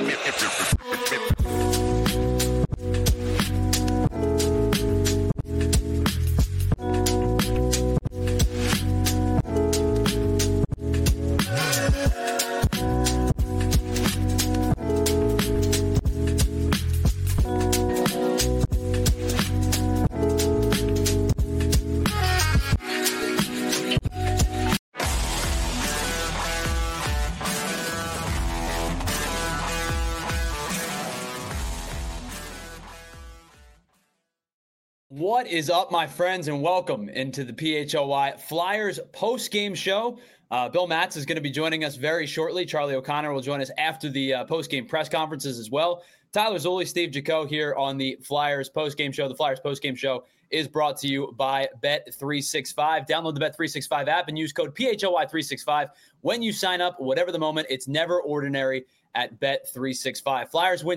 What is up, my friends, and welcome into the PHLY Flyers post-game show. Bill Matz is going to be joining us very shortly. Charlie O'Connor will join us after the post-game press conferences as well. Tyler Zulli, Steve Jaco here on the Flyers post-game show. The Flyers post-game show is brought to you by Bet365. Download the Bet365 app and use code PHLY365 when you sign up. Whatever the moment, it's never ordinary at Bet365. Flyers win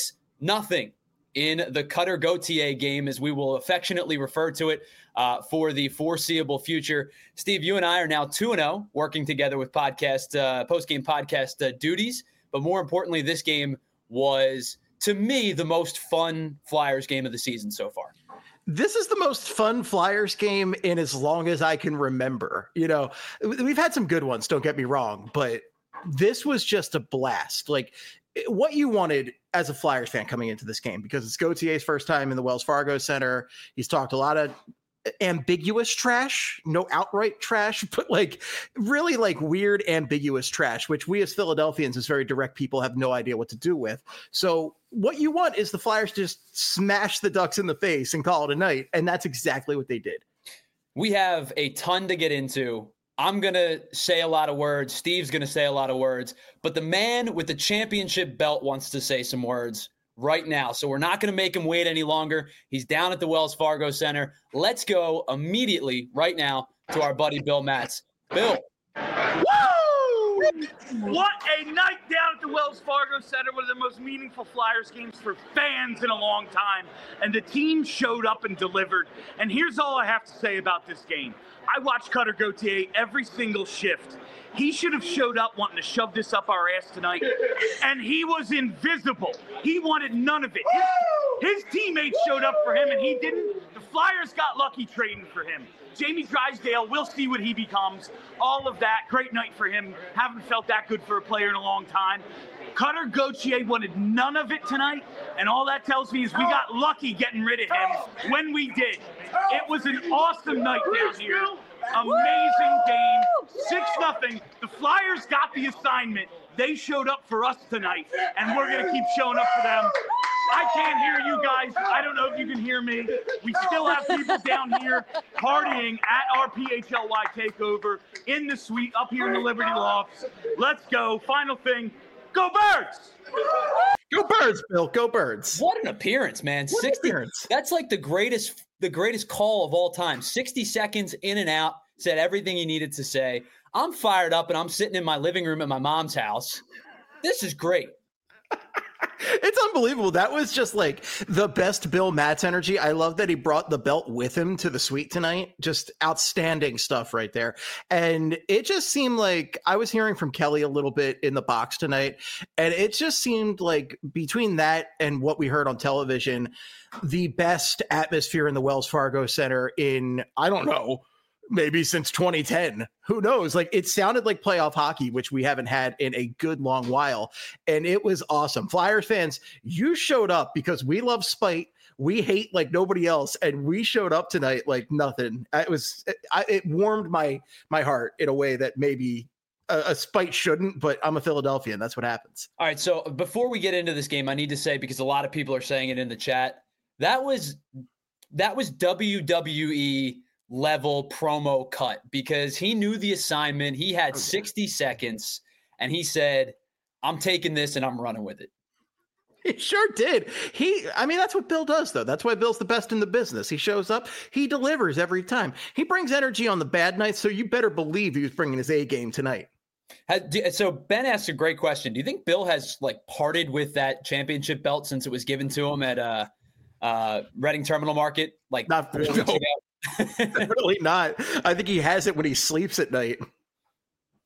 6-0 in the Cutter Gauthier game, as we will affectionately refer to it for the foreseeable future. Steve, you and I are now 2-0, working together with post-game podcast duties. But more importantly, this game was, to me, the most fun Flyers game of the season so far. This is the most fun Flyers game in as long as I can remember. You know, we've had some good ones, don't get me wrong, but this was just a blast. Like, what you wanted as a Flyers fan coming into this game, because it's Gauthier's first time in the Wells Fargo Center. He's talked a lot of ambiguous trash, no outright trash, but like really like weird ambiguous trash, which we as Philadelphians, as very direct people, have no idea what to do with. So what you want is the Flyers to just smash the Ducks in the face and call it a night. And that's exactly what they did. We have a ton to get into. I'm going to say a lot of words. Steve's going to say a lot of words. But the man with the championship belt wants to say some words right now. So we're not going to make him wait any longer. He's down at the Wells Fargo Center. Let's go immediately right now to our buddy Bill Matz. Bill. Woo! What a night down at the Wells Fargo Center. One of the most meaningful Flyers games for fans in a long time. And the team showed up and delivered. And here's all I have to say about this game. I watched Cutter Gauthier every single shift. He should have showed up wanting to shove this up our ass tonight, and he was invisible. He wanted none of it. His teammates showed up for him, and he didn't. The Flyers got lucky trading for him. Jamie Drysdale, we'll see what he becomes. All of that, great night for him. Haven't felt that good for a player in a long time. Cutter Gauthier wanted none of it tonight, and all that tells me is we got lucky getting rid of him when we did. It was an awesome night down here. Amazing game. 6-0. The Flyers got the assignment. They showed up for us tonight, and we're going to keep showing up for them. I can't hear you guys. I don't know if you can hear me. We still have people down here partying at our PHLY takeover in the suite up here in the Liberty Lofts. Let's go. Final thing. Go Birds! Go Birds, Bill. Go Birds. What an appearance, man. 60 appearance. That's like the greatest call of all time. 60 seconds in and out, said everything he needed to say. I'm fired up, and I'm sitting in my living room at my mom's house. This is great. It's unbelievable. That was just like the best Bill Matz energy. I love that he brought the belt with him to the suite tonight. Just outstanding stuff right there. And it just seemed like I was hearing from Kelly a little bit in the box tonight. And it just seemed like between that and what we heard on television, the best atmosphere in the Wells Fargo Center in, I don't know, maybe since 2010. Who knows? Like, it sounded like playoff hockey, which we haven't had in a good long while. And it was awesome. Flyers fans, you showed up because we love spite. We hate like nobody else. And we showed up tonight like nothing. It warmed my heart in a way that maybe a spite shouldn't, but I'm a Philadelphian. That's what happens. All right. So before we get into this game, I need to say, because a lot of people are saying it in the chat, that was WWE level promo cut, because he knew the assignment. He had 60 seconds and he said, I'm taking this and I'm running with it. He sure did. That's what Bill does, though. That's why Bill's the best in the business. He shows up, he delivers every time. He brings energy on the bad nights, so you better believe he was bringing his A game tonight. So Ben asked a great question. Do you think Bill has like parted with that championship belt since it was given to him at Reading Terminal Market? Like, not really, not. I think he has it when he sleeps at night.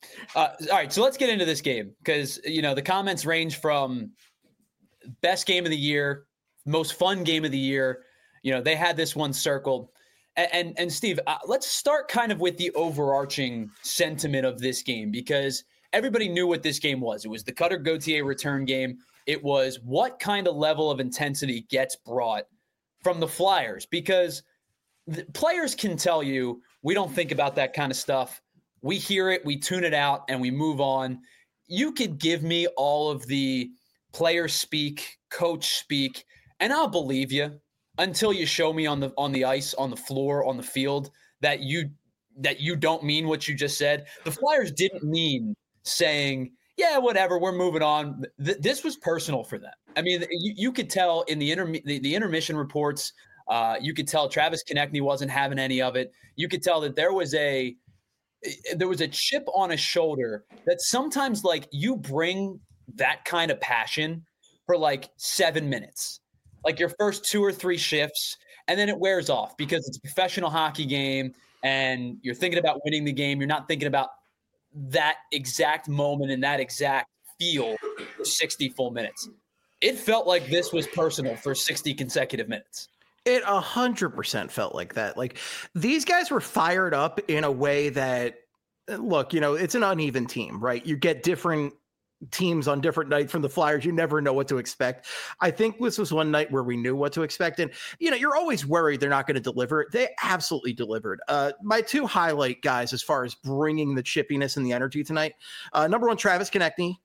All right, so let's get into this game because, the comments range from best game of the year, most fun game of the year. They had this one circled. And Steve, let's start kind of with the overarching sentiment of this game because everybody knew what this game was. It was the Cutter Gauthier return game. It was what kind of level of intensity gets brought from the Flyers because the players can tell you we don't think about that kind of stuff. We hear it, we tune it out, and we move on. You could give me all of the player speak, coach speak, and I'll believe you until you show me on the ice, on the floor, on the field that you don't mean what you just said. The Flyers didn't mean saying, yeah, whatever, we're moving on. This was personal for them. I mean, you could tell in the intermission reports, you could tell Travis Konechny wasn't having any of it. You could tell that there was a chip on his shoulder that sometimes like you bring that kind of passion for like 7 minutes, like your first 2 or 3 shifts, and then it wears off because it's a professional hockey game and you're thinking about winning the game. You're not thinking about that exact moment and that exact feel for 60 full minutes. It felt like this was personal for 60 consecutive minutes. It 100% felt like that. Like these guys were fired up in a way that, look, it's an uneven team, right? You get different teams on different nights from the Flyers. You never know what to expect. I think this was one night where we knew what to expect. And, you're always worried they're not going to deliver. They absolutely delivered. My 2 highlight guys, as far as bringing the chippiness and the energy tonight, number 1, Travis Konechny,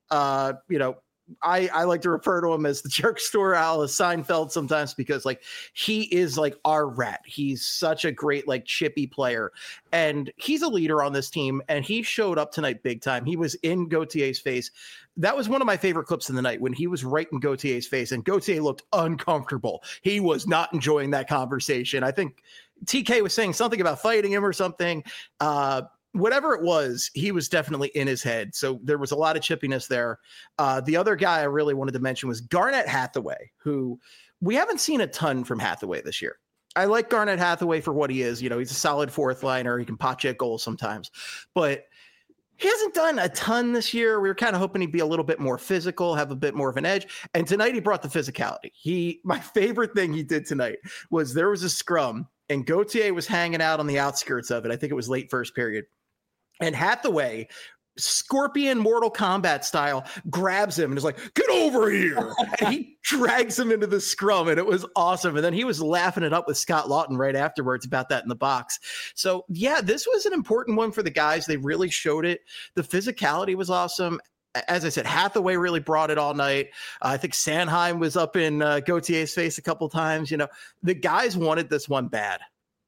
I like to refer to him as the jerk store Alice Seinfeld sometimes because like he is like our rat. He's such a great like chippy player and he's a leader on this team and he showed up tonight big time. He was in Gauthier's face. That was one of my favorite clips of the night when he was right in Gauthier's face and Gauthier looked uncomfortable. He was not enjoying that conversation. I think TK was saying something about fighting him or something. Whatever it was, he was definitely in his head. So there was a lot of chippiness there. The other guy I really wanted to mention was Garnet Hathaway, who we haven't seen a ton from Hathaway this year. I like Garnet Hathaway for what he is. He's a solid 4th liner. He can pot check goals sometimes, but he hasn't done a ton this year. We were kind of hoping he'd be a little bit more physical, have a bit more of an edge. And tonight he brought the physicality. My favorite thing he did tonight was there was a scrum and Gauthier was hanging out on the outskirts of it. I think it was late first period. And Hathaway, Scorpion Mortal Kombat style, grabs him and is like, get over here. And he drags him into the scrum, and it was awesome. And then he was laughing it up with Scott Lawton right afterwards about that in the box. So, yeah, this was an important one for the guys. They really showed it. The physicality was awesome. As I said, Hathaway really brought it all night. I think Sanheim was up in Gauthier's face a couple times. The guys wanted this one bad.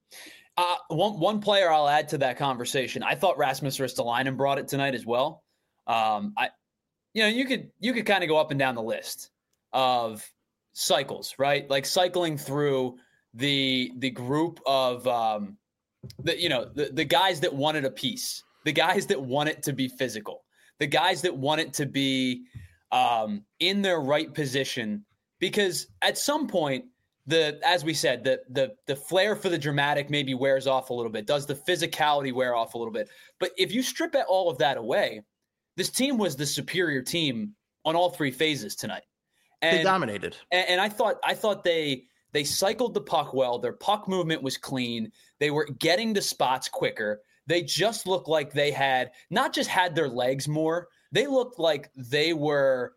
One player I'll add to that conversation. I thought Rasmus Ristolainen brought it tonight as well. You could kind of go up and down the list of cycles, right? Like cycling through the group of the guys that wanted a piece, the guys that want it to be physical, the guys that want it to be in their right position, because at some point, as we said, the flair for the dramatic maybe wears off a little bit. Does the physicality wear off a little bit? But if you strip all of that away, this team was the superior team on all 3 phases tonight. And they dominated. And I thought they cycled the puck well. Their puck movement was clean. They were getting to spots quicker. They just looked like they had not just had their legs more. They looked like they were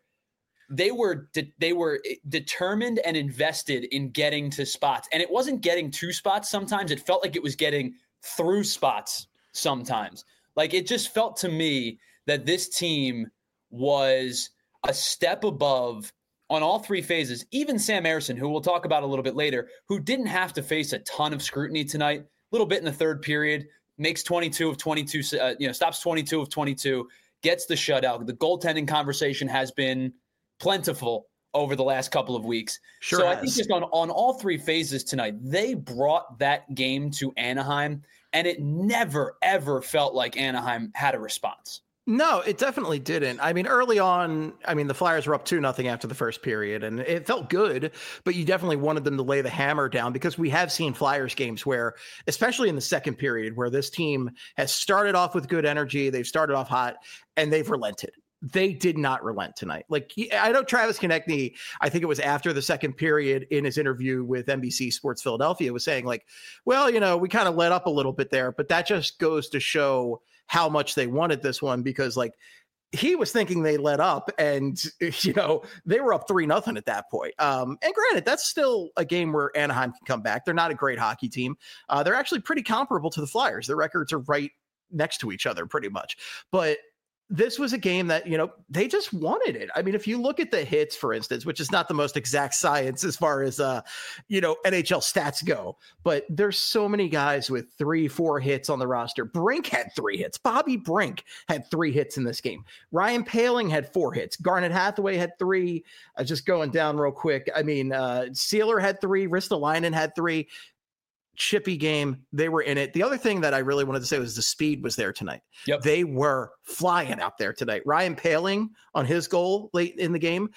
determined and invested in getting to spots. And it wasn't getting to spots sometimes. It felt like it was getting through spots sometimes. Like it just felt to me that this team was a step above on all 3 phases. Even Sam Ersson, who we'll talk about a little bit later, who didn't have to face a ton of scrutiny tonight, a little bit in the 3rd period, makes 22 of 22, stops 22 of 22, gets the shutout. The goaltending conversation has been plentiful over the last couple of weeks. Sure so has. I think just on all 3 phases tonight, they brought that game to Anaheim, and it never, ever felt like Anaheim had a response. No, it definitely didn't. I mean, early on, the Flyers were up 2-0 after the first period, and it felt good, but you definitely wanted them to lay the hammer down because we have seen Flyers games where, especially in the second period, where this team has started off with good energy, they've started off hot, and they've relented. They did not relent tonight. Like, I know Travis Konecny, I think it was after the second period in his interview with NBC Sports Philadelphia, was saying like, well, we kind of let up a little bit there, but that just goes to show how much they wanted this one, because like he was thinking they let up and, they were up 3-0 at that point. And granted, that's still a game where Anaheim can come back. They're not a great hockey team. They're actually pretty comparable to the Flyers. Their records are right next to each other pretty much. But this was a game that, they just wanted it. I mean, if you look at the hits, for instance, which is not the most exact science as far as, NHL stats go, but there's so many guys with 3-4 hits on the roster. Brink had 3 hits. Bobby Brink had 3 hits in this game. Ryan Poehling had 4 hits. Garnet Hathaway had 3. Just going down real quick. I mean, Sealer had 3. Ristolainen had 3. Chippy game. They were in it. The other thing that I really wanted to say was the speed was there tonight. Yep. They were flying out there tonight. Ryan Poehling on his goal late in the game,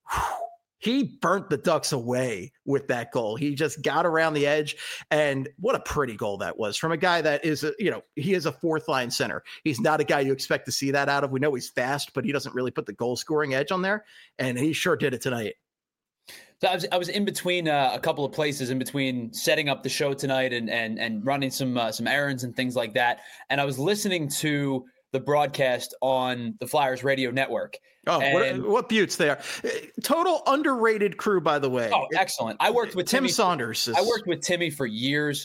he burnt the Ducks away with that goal. He just got around the edge, and what a pretty goal that was from a guy that is, he is a fourth line center. He's not a guy you expect to see that out of. We know he's fast, but he doesn't really put the goal scoring edge on there, and he sure did it tonight. So I was in between a couple of places, in between setting up the show tonight and running some errands and things like that. And I was listening to the broadcast on the Flyers radio network. Oh, what beauts they are. Total underrated crew, by the way. Oh, excellent. I worked with Tim Saunders. I worked with Timmy for years.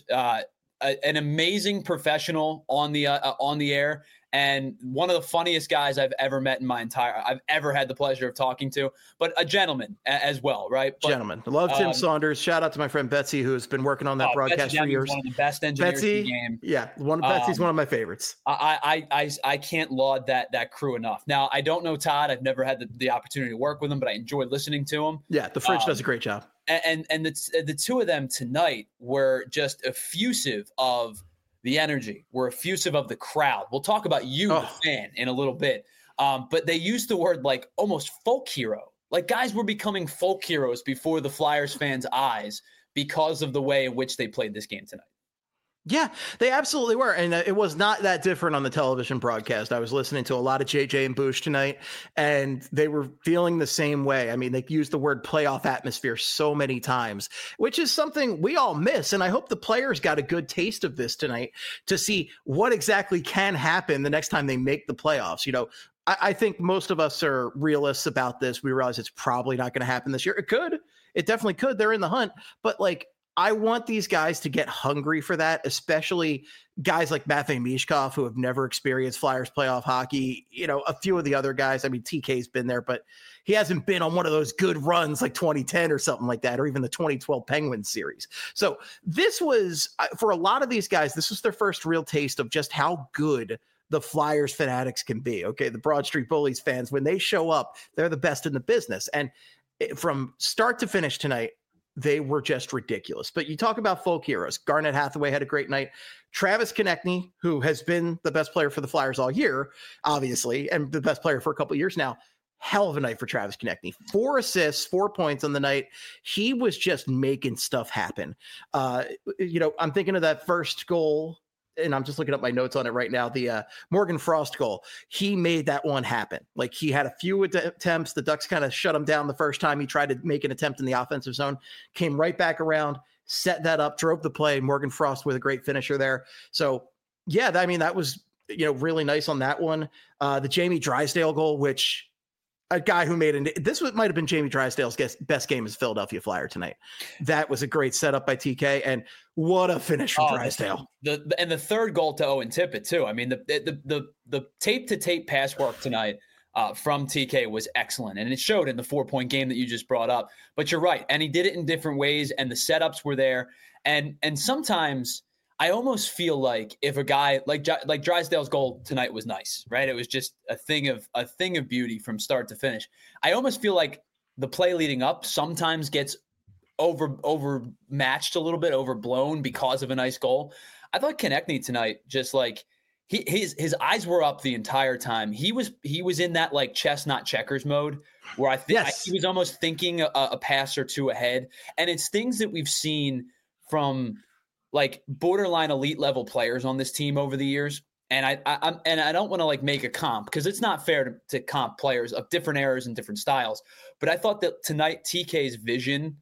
An amazing professional on the air. And one of the funniest guys I've ever met in I've ever had the pleasure of talking to, but a gentleman as well, right? But, gentleman. Love Tim Saunders. Shout out to my friend Betsy, who has been working on that broadcast for years. One of the best engineers in the game. Yeah, Betsy's one of my favorites. I can't laud that crew enough. Now, I don't know Todd. I've never had the opportunity to work with him, but I enjoy listening to him. Yeah, the Fridge does a great job. And the two of them tonight were just effusive of the energy. We're effusive of the crowd. We'll talk about the fan, in a little bit. But they used the word like almost folk hero. Like guys were becoming folk heroes before the Flyers fans' eyes because of the way in which they played this game tonight. Yeah, they absolutely were. And it was not that different on the television broadcast. I was listening to a lot of JJ and Bush tonight, and they were feeling the same way. I mean, they used the word playoff atmosphere so many times, which is something we all miss. And I hope the players got a good taste of this tonight to see what exactly can happen the next time they make the playoffs. I think most of us are realists about this. We realize it's probably not going to happen this year. It could. It definitely could. They're in the hunt. But I want these guys to get hungry for that, especially guys like Matvei Michkov, who have never experienced Flyers playoff hockey. A few of the other guys, I mean, TK's been there, but he hasn't been on one of those good runs like 2010 or something like that, or even the 2012 Penguins series. So this was, for a lot of these guys, this was their first real taste of just how good the Flyers fanatics can be. Okay, the Broad Street Bullies fans, when they show up, they're the best in the business. And from start to finish tonight, they were just ridiculous. But you talk about folk heroes. Garnet Hathaway had a great night. Travis Konecny, who has been the best player for the Flyers all year, obviously, and the best player for a couple of years now. Hell of a night for Travis Konecny. 4 assists, 4 points on the night. He was just making stuff happen. I'm thinking of that first goal, and I'm just looking up my notes on it right now, the Morgan Frost goal. He made that one happen. Like, he had a few attempts. The Ducks kind of shut him down the first time he tried to make an attempt in the offensive zone, came right back around, set that up, drove the play. Morgan Frost with a great finisher there. So, yeah, that was, really nice on that one. The Jamie Drysdale goal, which a guy who might have been Jamie Drysdale's best game as a Philadelphia Flyer tonight. That was a great setup by TK, and what a finish from Drysdale. The third goal to Owen Tippett too. I mean, the tape to tape pass work tonight from TK was excellent, and it showed in the 4-point game that you just brought up. But you're right, and he did it in different ways, and the setups were there, and sometimes I almost feel like if a guy like Drysdale's goal tonight was nice, right? It was just a thing of beauty from start to finish. I almost feel like the play leading up sometimes gets overmatched a little bit, overblown because of a nice goal. I thought Konecny tonight, just like his eyes were up the entire time. He was in that like chess not checkers mode where I think he was almost thinking a pass or two ahead. And it's things that we've seen from like borderline elite level players on this team over the years. And I don't want to like make a comp because it's not fair to comp players of different eras and different styles. But I thought that tonight TK's vision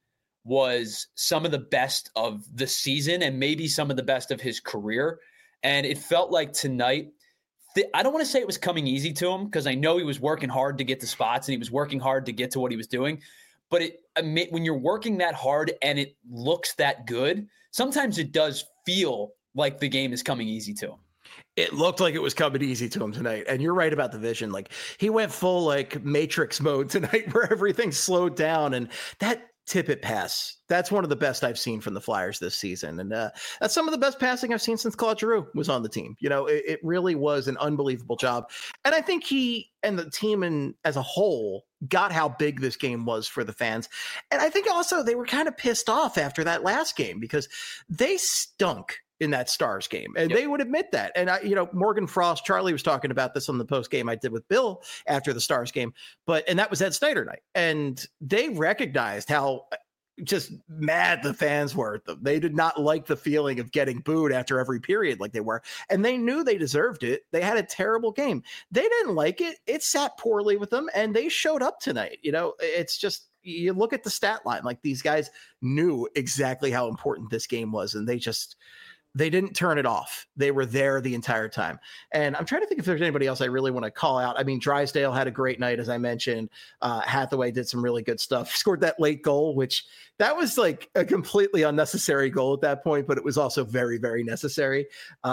was some of the best of the season and maybe some of the best of his career. And it felt like tonight, I don't want to say it was coming easy to him because I know he was working hard to get the spots and he was working hard to get to what he was doing. But when you're working that hard and it looks that good, sometimes it does feel like the game is coming easy to him. It looked like it was coming easy to him tonight. And you're right about the vision. Like he went full like Matrix mode tonight where everything slowed down. And that Tippett pass, that's one of the best I've seen from the Flyers this season. And that's some of the best passing I've seen since Claude Giroux was on the team. You know, it really was an unbelievable job. And I think he and the team as a whole got how big this game was for the fans. And I think also they were kind of pissed off after that last game because they stunk in that Stars game. And they would admit that. And Morgan Frost, Charlie was talking about this on the post game I did with Bill after the Stars game, and that was Ed Snyder night. And they recognized how just mad the fans were at them. They did not like the feeling of getting booed after every period like they were. And they knew they deserved it. They had a terrible game. They didn't like it. It sat poorly with them and they showed up tonight. You know, it's just, you look at the stat line, like these guys knew exactly how important this game was. And they didn't turn it off. They were there the entire time. And I'm trying to think if there's anybody else I really want to call out. I mean, Drysdale had a great night, as I mentioned. Hathaway did some really good stuff. Scored that late goal, which that was like a completely unnecessary goal at that point, but it was also very, very necessary.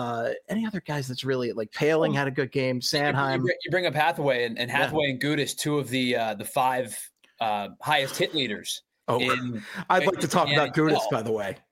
Any other guys that's really like Paling had a good game. Sanheim. You bring up Hathaway and Hathaway and Gudas, two of the five highest hit leaders. I'd like to talk about Gudas, by the way.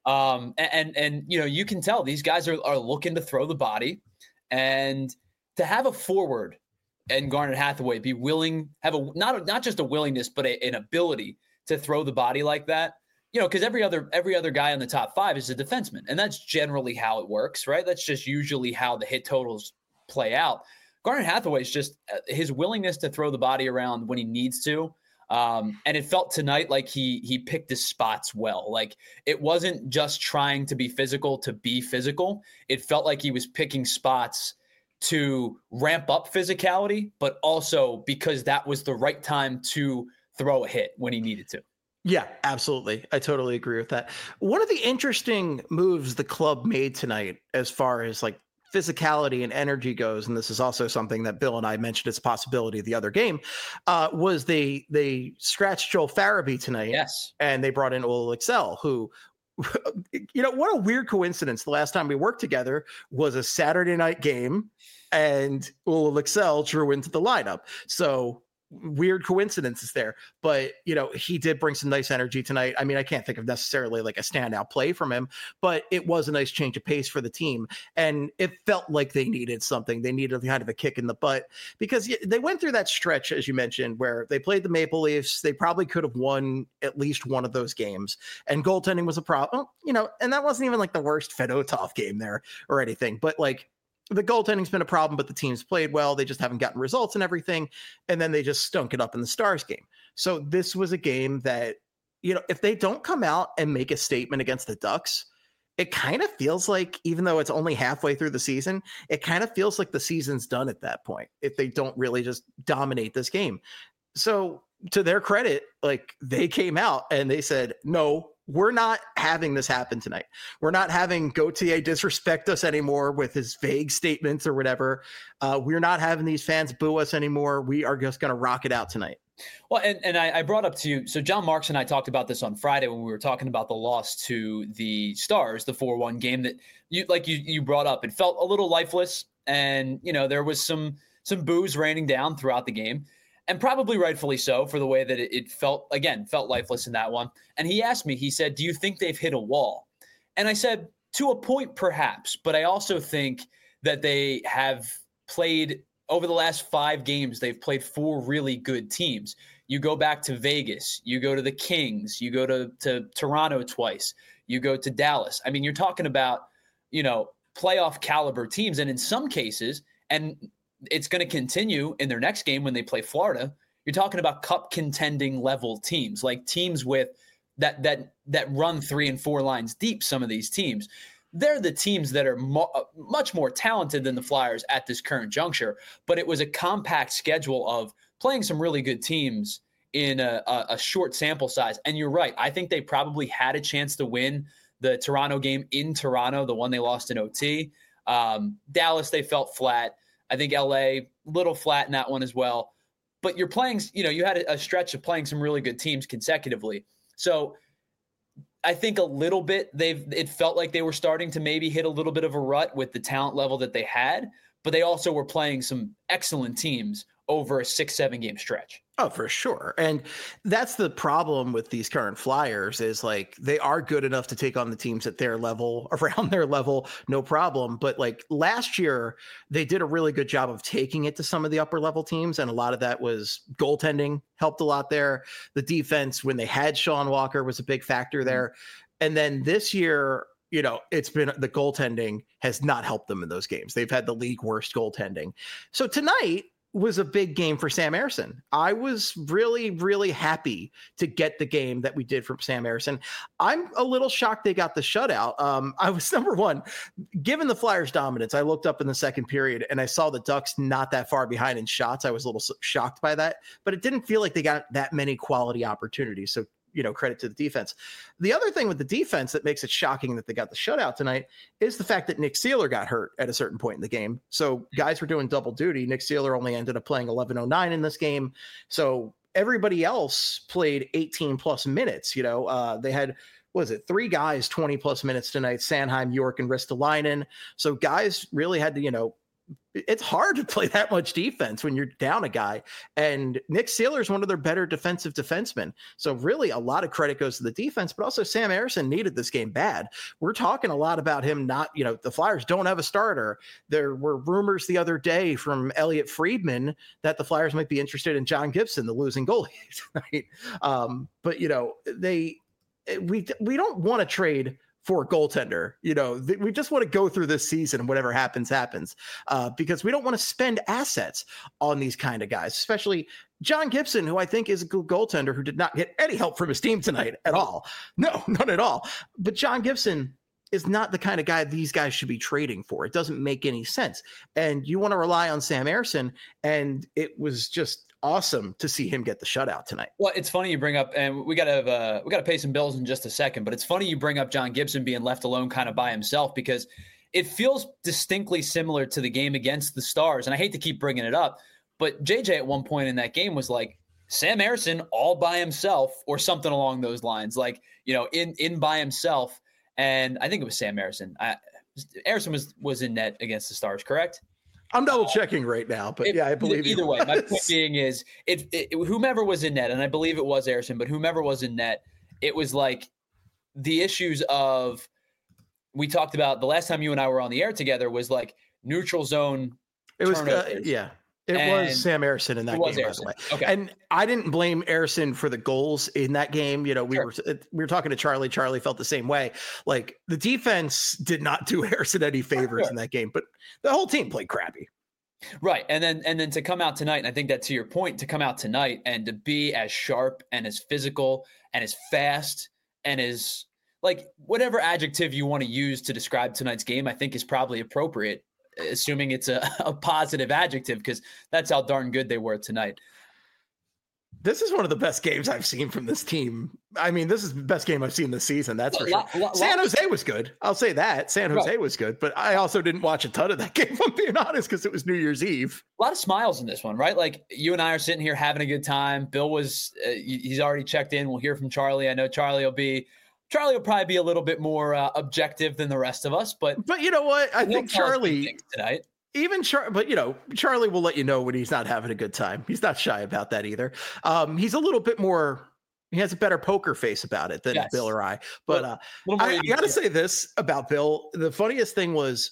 And you can tell these guys are looking to throw the body, and to have a forward and Garnet Hathaway be willing, have not just a willingness, but an ability to throw the body like that. You know, because every other guy in the top five is a defenseman, and that's generally how it works, right? That's just usually how the hit totals play out. Garnet Hathaway is just his willingness to throw the body around when he needs to. And it felt tonight like he picked his spots well. Like it wasn't just trying to be physical to be physical. It felt like he was picking spots to ramp up physicality, but also because that was the right time to throw a hit when he needed to. Yeah, absolutely. I totally agree with that. One of the interesting moves the club made tonight, as far as like physicality and energy goes, and this is also something that Bill and I mentioned as a possibility the other game, was they scratched Joel Farabee tonight. Yes. And they brought in Ola Excel, who, what a weird coincidence. The last time we worked together was a Saturday night game and Ola Excel drew into the lineup. So weird coincidences there, but he did bring some nice energy tonight. I mean, I can't think of necessarily like a standout play from him, but it was a nice change of pace for the team, and it felt like they needed something. They needed kind of a kick in the butt because they went through that stretch, as you mentioned, where they played the Maple Leafs. They probably could have won at least one of those games, and goaltending was a problem. And that wasn't even like the worst Fedotov game there or anything, but like, the goaltending's been a problem, but the team's played well. They just haven't gotten results and everything. And then they just stunk it up in the Stars game. So this was a game that, if they don't come out and make a statement against the Ducks, it kind of feels like, even though it's only halfway through the season, it kind of feels like the season's done at that point, if they don't really just dominate this game. So to their credit, like they came out and they said, no, we're not having this happen tonight. We're not having Gauthier disrespect us anymore with his vague statements or whatever. We're not having these fans boo us anymore. We are just going to rock it out tonight. Well, and I brought up to you, so John Marks and I talked about this on Friday when we were talking about the loss to the Stars, the 4-1 game that you brought up. It felt a little lifeless, and there was some boos raining down throughout the game. And probably rightfully so, for the way that it felt lifeless in that one. And he asked me, he said, do you think they've hit a wall? And I said, to a point, perhaps. But I also think that they have played, over the last 5 games, they've played 4 really good teams. You go back to Vegas, you go to the Kings, you go to Toronto twice, you go to Dallas. I mean, you're talking about, playoff caliber teams. And in some cases, and it's going to continue in their next game when they play Florida, you're talking about cup contending level teams, like teams with that run 3 and 4 lines deep. Some of these teams, they're the teams that are much more talented than the Flyers at this current juncture. But it was a compact schedule of playing some really good teams in a short sample size. And you're right. I think they probably had a chance to win the Toronto game in Toronto, the one they lost in OT. Dallas, they felt flat. I think LA, little flat in that one as well. But you're playing, you had a stretch of playing some really good teams consecutively. So I think a little bit it felt like they were starting to maybe hit a little bit of a rut with the talent level that they had, but they also were playing some excellent teams over a 6-7 game stretch. Oh, for sure. And that's the problem with these current Flyers is like they are good enough to take on the teams at their level, around their level, no problem. But like last year, they did a really good job of taking it to some of the upper level teams. And a lot of that was goaltending helped a lot there. The defense, when they had Sean Walker, was a big factor there. And then this year, it's been the goaltending has not helped them in those games. They've had the league worst goaltending. So tonight was a big game for Sam Ersson. I was really, really happy to get the game that we did from Sam Ersson. I'm a little shocked they got the shutout. I was number one, given the Flyers dominance. I looked up in the second period and I saw the Ducks not that far behind in shots. I was a little shocked by that, but it didn't feel like they got that many quality opportunities. So, credit to the defense. The other thing with the defense that makes it shocking that they got the shutout tonight is the fact that Nick Seeler got hurt at a certain point in the game. So guys were doing double duty. Nick Seeler only ended up playing 11:09 in this game. So everybody else played 18 plus minutes. They had, 3 guys, 20 plus minutes tonight, Sanheim, York, and Ristolainen. So guys really had to, it's hard to play that much defense when you're down a guy. And Nick Seeler is one of their better defensive defensemen. So really a lot of credit goes to the defense, but also Sam Ersson needed this game bad. We're talking a lot about him not, the Flyers don't have a starter. There were rumors the other day from Elliot Friedman that the Flyers might be interested in John Gibson, the losing goalie tonight. But we don't want to trade for a goaltender. We just want to go through this season and whatever happens, because we don't want to spend assets on these kind of guys, especially John Gibson, who I think is a good goaltender who did not get any help from his team tonight at all. No, none at all. But John Gibson is not the kind of guy these guys should be trading for. It doesn't make any sense. And you want to rely on Sam Ersson, and it was just awesome to see him get the shutout tonight. Well, it's funny you bring up, and we got to pay some bills in just a second, but it's funny you bring up John Gibson being left alone kind of by himself, because it feels distinctly similar to the game against the Stars. And I hate to keep bringing it up, but JJ at one point in that game was like, Sam Ersson all by himself or something along those lines, like, in by himself. And I think it was Sam Ersson. Ersson was in net against the Stars, correct? I'm double checking right now, but I believe either way. My point being is, whomever was in net, and I believe it was Ersson, but whomever was in net, it was like the issues of, we talked about the last time you and I were on the air together was like neutral zone. It was was Sam Ersson in that game, by the way. Okay. And I didn't blame Ersson for the goals in that game. We were talking to Charlie. Charlie felt the same way. Like the defense did not do Ersson any favors in that game, but the whole team played crappy. Right. And then to come out tonight, and I think that to your point, to come out tonight and to be as sharp and as physical and as fast and as like whatever adjective you want to use to describe tonight's game, I think is probably appropriate, assuming it's a positive adjective, because that's how darn good they were tonight. This is one of the best games I've seen from this team. I mean, this is the best game I've seen this season. That's for sure. San Jose was good. I'll say that. San Jose was good, but I also didn't watch a ton of that game, if I'm being honest, because it was New Year's Eve. A lot of smiles in this one, right? Like you and I are sitting here having a good time. Bill was, he's already checked in. We'll hear from Charlie. I know Charlie will probably be a little bit more objective than the rest of us, but you know what? I think Charlie tonight. But Charlie will let you know when he's not having a good time. He's not shy about that either. He's a little bit more, he has a better poker face about it than Bill or I. But I got to say this about Bill. The funniest thing was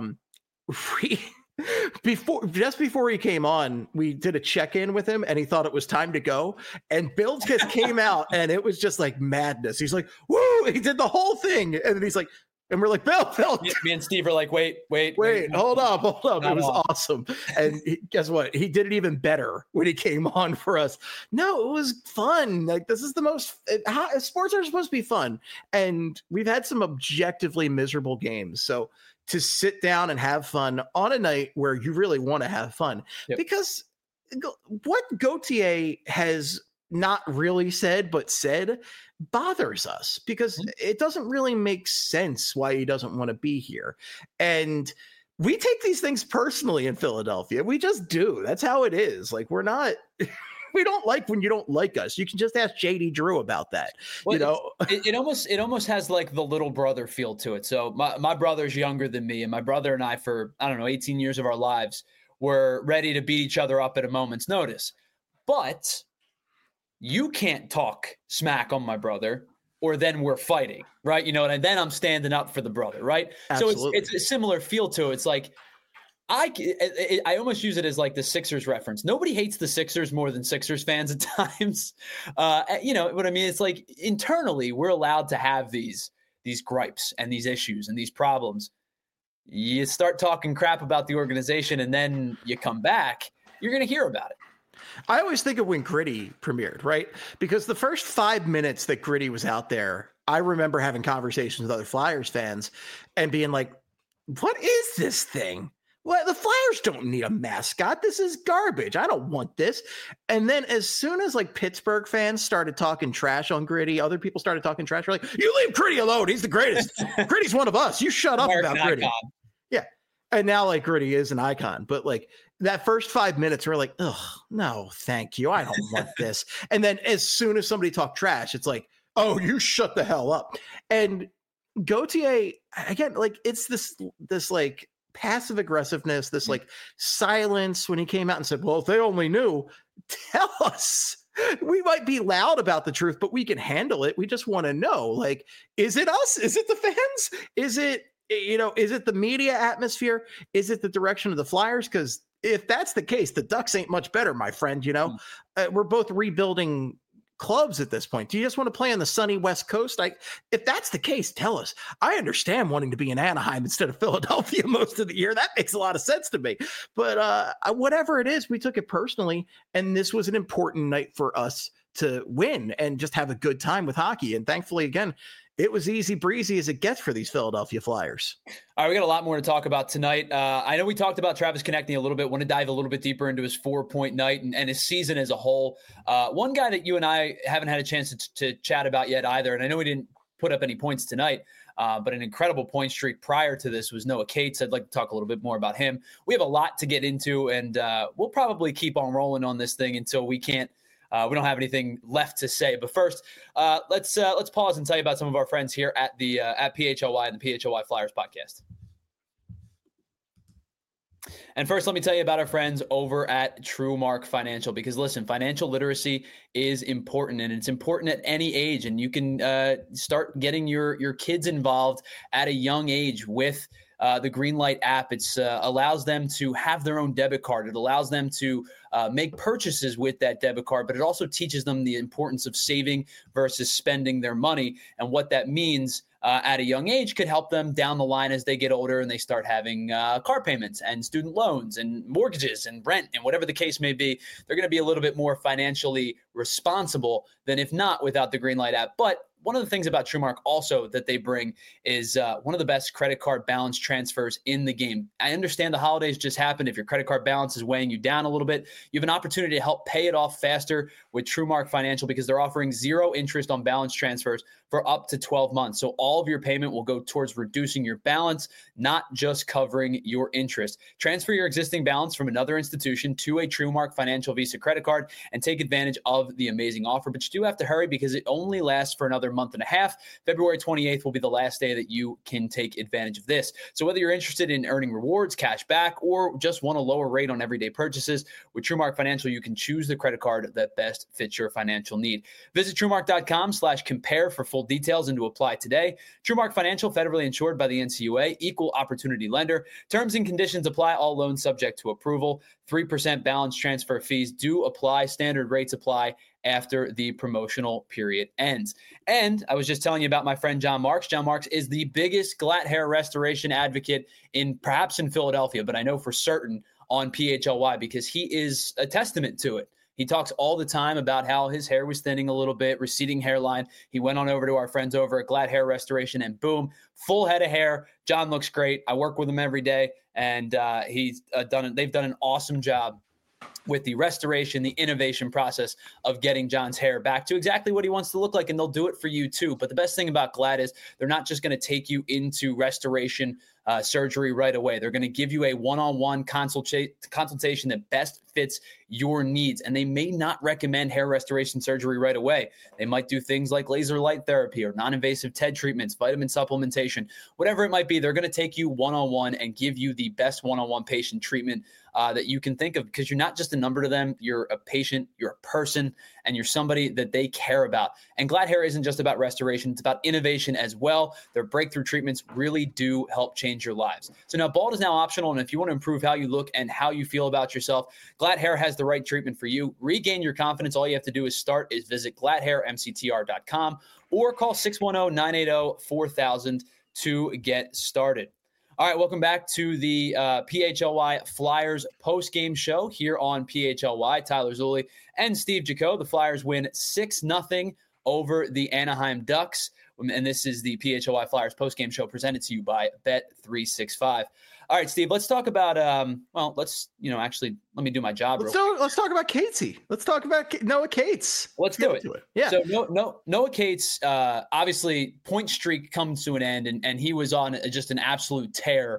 just before he came on, we did a check-in with him and he thought it was time to go. And Bill just came out and it was just like madness. He's like, woo, he did the whole thing. And then he's like, And we're like, Bill. Me and Steve are like, wait, hold up. It was awesome. And guess what? He did it even better when he came on for us. No, it was fun. Like, this is the most sports are supposed to be fun. And we've had some objectively miserable games. So to sit down and have fun on a night where you really want to have fun, because what Gauthier has not really said, but said bothers us because it doesn't really make sense why he doesn't want to be here. And we take these things personally in Philadelphia. We just do. That's how it is. Like, we're not, we don't like when you don't like us. You can just ask JD Drew about that. Well, it almost has like the little brother feel to it. So my brother's younger than me, and my brother and I, for, 18 years of our lives, were ready to beat each other up at a moment's notice. But you can't talk smack on my brother, or then we're fighting, right? And then I'm standing up for the brother, right? Absolutely. So it's a similar feel to it. It's like, I almost use it as like the Sixers reference. Nobody hates the Sixers more than Sixers fans at times. You know what I mean? It's like, internally, we're allowed to have these gripes and these issues and these problems. You start talking crap about the organization, and then you come back, you're going to hear about it. I always think of when Gritty premiered, right? Because the first 5 minutes that Gritty was out there, I remember having conversations with other Flyers fans and being like, what is this thing? Well, the Flyers don't need a mascot. This is garbage. I don't want this. And then as soon as like Pittsburgh fans started talking trash on Gritty, other people started talking trash. We're like, you leave Gritty alone. He's the greatest. Gritty's one of us. You shut up about Gritty. Icon. Yeah. And now like Gritty is an icon, but like that first 5 minutes, we're like, oh, no, thank you. I don't want this. And then as soon as somebody talked trash, it's like, oh, you shut the hell up. And Gauthier, again, like it's this like passive aggressiveness, this like silence when he came out and said, well, if they only knew, tell us. We might be loud about the truth, but we can handle it. We just want to know, like, is it us? Is it the fans? Is it the media atmosphere? Is it the direction of the Flyers? Because if that's the case, the Ducks ain't much better, my friend. We're both rebuilding clubs at this point. Do you just want to play on the sunny West Coast? If that's the case, tell us. I understand wanting to be in Anaheim instead of Philadelphia most of the year. That makes a lot of sense to me. But whatever it is, we took it personally, and this was an important night for us to win and just have a good time with hockey. And thankfully, again, it was easy breezy as it gets for these Philadelphia Flyers. All right, we got a lot more to talk about tonight. I know we talked about Travis Konecny a little bit. Want to dive a little bit deeper into his 4-point night and his season as a whole. One guy that you and I haven't had a chance to chat about yet either, and I know we didn't put up any points tonight, but an incredible point streak prior to this was Noah Cates. I'd like to talk a little bit more about him. We have a lot to get into, and we'll probably keep on rolling on this thing until we can't. We don't have anything left to say. But first, let's pause and tell you about some of our friends here at the at PHLY and the PHLY Flyers podcast. And first, let me tell you about our friends over at TrueMark Financial, because listen, financial literacy is important, and it's important at any age. And you can start getting your kids involved at a young age with the Greenlight app. It allows them to have their own debit card. It allows them to make purchases with that debit card, but it also teaches them the importance of saving versus spending their money, and what that means at a young age could help them down the line as they get older and they start having car payments and student loans and mortgages and rent and whatever the case may be. They're going to be a little bit more financially responsible than if not without the Greenlight app. But one of the things about TrueMark also that they bring is one of the best credit card balance transfers in the game. I understand the holidays just happened. If your credit card balance is weighing you down a little bit, you have an opportunity to help pay it off faster with TrueMark Financial, because they're offering 0 interest on balance transfers for up to 12 months. So all of your payment will go towards reducing your balance, not just covering your interest. Transfer your existing balance from another institution to a TrueMark Financial Visa credit card and take advantage of the amazing offer. But you do have to hurry because it only lasts for another month and a half. February 28th will be the last day that you can take advantage of this. So whether you're interested in earning rewards, cash back, or just want a lower rate on everyday purchases, with TrueMark Financial, you can choose the credit card that best fits your financial need. Visit TrueMark.com/compare for full details and to apply today. TrueMark Financial, federally insured by the NCUA, equal opportunity lender. Terms and conditions apply. All loans subject to approval. 3% balance transfer fees do apply. Standard rates apply after the promotional period ends. And I was just telling you about my friend John Marks. John Marks is the biggest glatt hair restoration advocate perhaps in Philadelphia, but I know for certain on PHLY because he is a testament to it. He talks all the time about how his hair was thinning a little bit, receding hairline. He went on over to our friends over at Glatt Hair Restoration, and boom, full head of hair. John looks great. I work with him every day, and they've done an awesome job with the restoration, the innovation process of getting John's hair back to exactly what he wants to look like, and they'll do it for you too. But the best thing about Glatt is they're not just going to take you into restoration surgery right away. They're going to give you a one-on-one consultation that best fits your needs, and they may not recommend hair restoration surgery right away. They might do things like laser light therapy or non-invasive TED treatments, vitamin supplementation, whatever it might be. They're going to take you one-on-one and give you the best one-on-one patient treatment that you can think of, because you're not just a number to them. You're a patient, you're a person, and you're somebody that they care about. And Glatt Hair isn't just about restoration. It's about innovation as well. Their breakthrough treatments really do help change your lives. So now bald is now optional. And if you want to improve how you look and how you feel about yourself, Glatt Hair has the right treatment for you. Regain your confidence. All you have to do is visit glatthairmctr.com or call 610-980-4000 to get started. All right, welcome back to the PHLY Flyers post-game show here on PHLY. Tyler Zulli and Steve Jaco. The Flyers win 6-0 over the Anaheim Ducks. And this is the PHLY Flyers post-game show presented to you by Bet365. All right, Steve, let's talk about, let me do my job. Let's talk about Catesy. Let's talk about Noah Cates. Let's do it. Yeah. So Noah Cates, obviously point streak comes to an end, and he was on just an absolute tear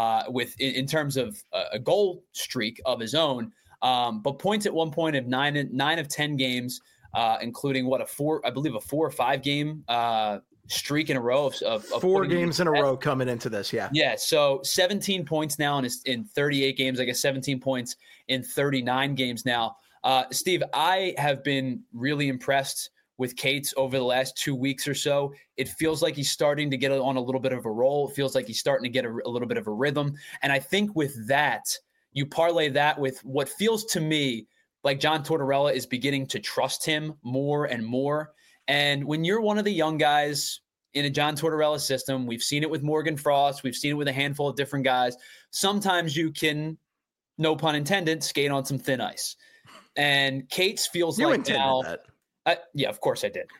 in terms of a goal streak of his own. But points at one point of 9 of 10 games, including a 4 or 5 game streak in a row of 4 games in a row coming into this. Yeah. So 17 points now in 38 games, I guess 17 points in 39 games now. Steve, I have been really impressed with Cates over the last 2 weeks or so. It feels like he's starting to get on a little bit of a roll. It feels like he's starting to get a little bit of a rhythm. And I think with that, you parlay that with what feels to me like John Tortorella is beginning to trust him more and more. And when you're one of the young guys in a John Tortorella system, we've seen it with Morgan Frost, we've seen it with a handful of different guys. Sometimes you can, no pun intended, skate on some thin ice. And Cates feels you like now. That. Yeah, of course I did.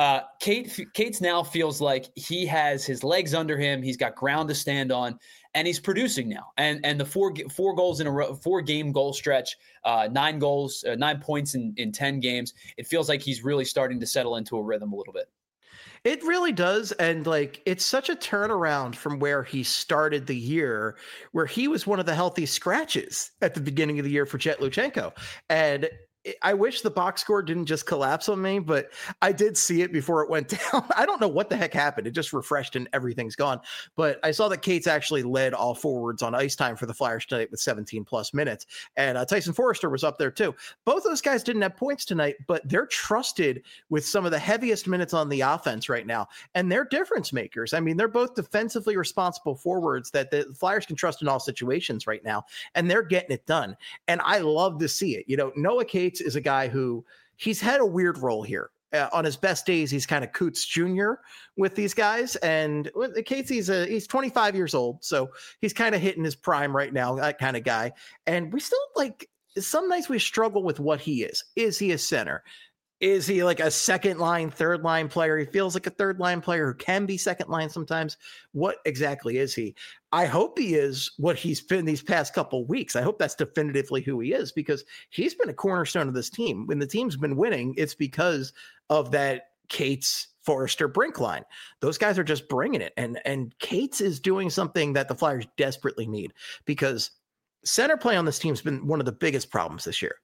Cates now feels like he has his legs under him. He's got ground to stand on, and he's producing now. And the four goals in a row, 4-game goal stretch, 9 goals, 9 points in 10 games. It feels like he's really starting to settle into a rhythm a little bit. It really does. And it's such a turnaround from where he started the year, where he was one of the healthy scratches at the beginning of the year for Jet Luchenko. And I wish the box score didn't just collapse on me, but I did see it before it went down. I don't know what the heck happened. It just refreshed and everything's gone. But I saw that Cates actually led all forwards on ice time for the Flyers tonight with 17 plus minutes. And Tyson Forrester was up there too. Both those guys didn't have points tonight, but they're trusted with some of the heaviest minutes on the offense right now. And they're difference makers. I mean, they're both defensively responsible forwards that the Flyers can trust in all situations right now. And they're getting it done. And I love to see it. Noah Cates is a guy who he's had a weird role here. On his best days, he's kind of Coots Jr. with these guys. And Cates, he's 25 years old. So he's kind of hitting his prime right now, that kind of guy. And we still some nights we struggle with what he is. Is he a center? Is he like a second line, third line player? He feels like a third line player who can be second line sometimes. What exactly is he? I hope he is what he's been these past couple of weeks. I hope that's definitively who he is, because he's been a cornerstone of this team. When the team's been winning, it's because of that Cates, Forrester, Brink line. Those guys are just bringing it. And Cates is doing something that the Flyers desperately need, because center play on this team has been one of the biggest problems this year.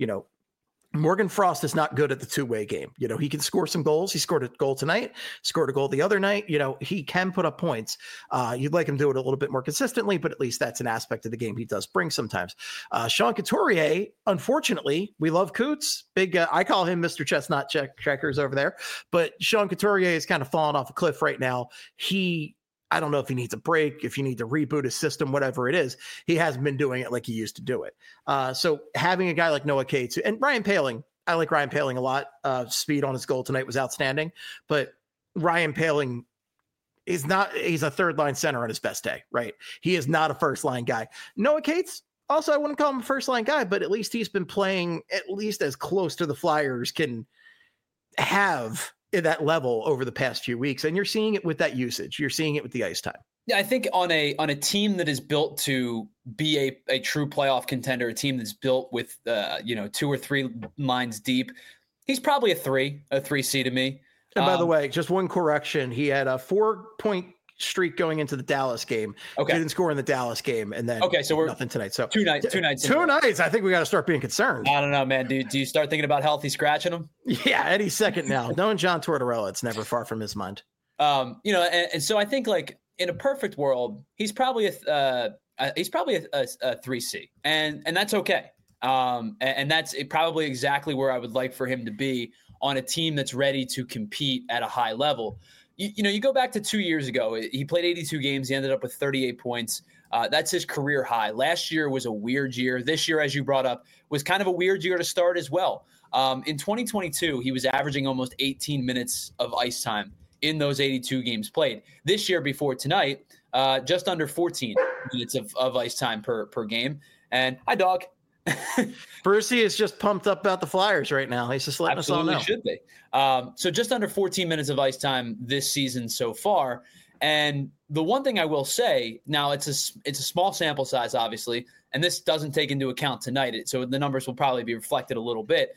Morgan Frost is not good at the two-way game. He can score some goals. He scored a goal tonight, scored a goal the other night. He can put up points. You'd like him to do it a little bit more consistently, but at least that's an aspect of the game he does bring sometimes. Sean Couturier, unfortunately, we love Coots. I call him Mr. Chestnut Checkers over there, but Sean Couturier is kind of falling off a cliff right now. I don't know if he needs a break, if you need to reboot his system, whatever it is. He hasn't been doing it like he used to do it. So having a guy like Noah Cates and Ryan Poehling, I like Ryan Poehling a lot. Speed on his goal tonight was outstanding, but Ryan Poehling he's a third line center on his best day, right? He is not a first line guy. Noah Cates, also, I wouldn't call him a first line guy, but at least he's been playing at least as close to the Flyers can have at that level over the past few weeks. And you're seeing it with that usage. You're seeing it with the ice time. Yeah, I think on a team that is built to be a true playoff contender, a team that's built with 2 or 3 lines deep, he's probably a 3C to me. And by the way, just one correction. He had a 4-point streak going into the Dallas game. Okay. Didn't score in the Dallas game. And then so we're nothing tonight. So two nights. 2 nights. I think we got to start being concerned. I don't know, man. Do you start thinking about healthy scratching him? Yeah, any second now. Knowing John Tortorella, it's never far from his mind. And so I think like in a perfect world, he's probably a 3C, and that's okay. And that's probably exactly where I would like for him to be on a team that's ready to compete at a high level. You go back to 2 years ago, he played 82 games. He ended up with 38 points. That's his career high. Last year was a weird year. This year, as you brought up, was kind of a weird year to start as well. In 2022, he was averaging almost 18 minutes of ice time in those 82 games played. This year, before tonight, just under 14 minutes of ice time per game. And hi, dog. Brucey is just pumped up about the Flyers right now. He's just letting us all know. Should be. So just under 14 minutes of ice time this season so far. And the one thing I will say, now it's a small sample size, obviously, and this doesn't take into account tonight, so the numbers will probably be reflected a little bit.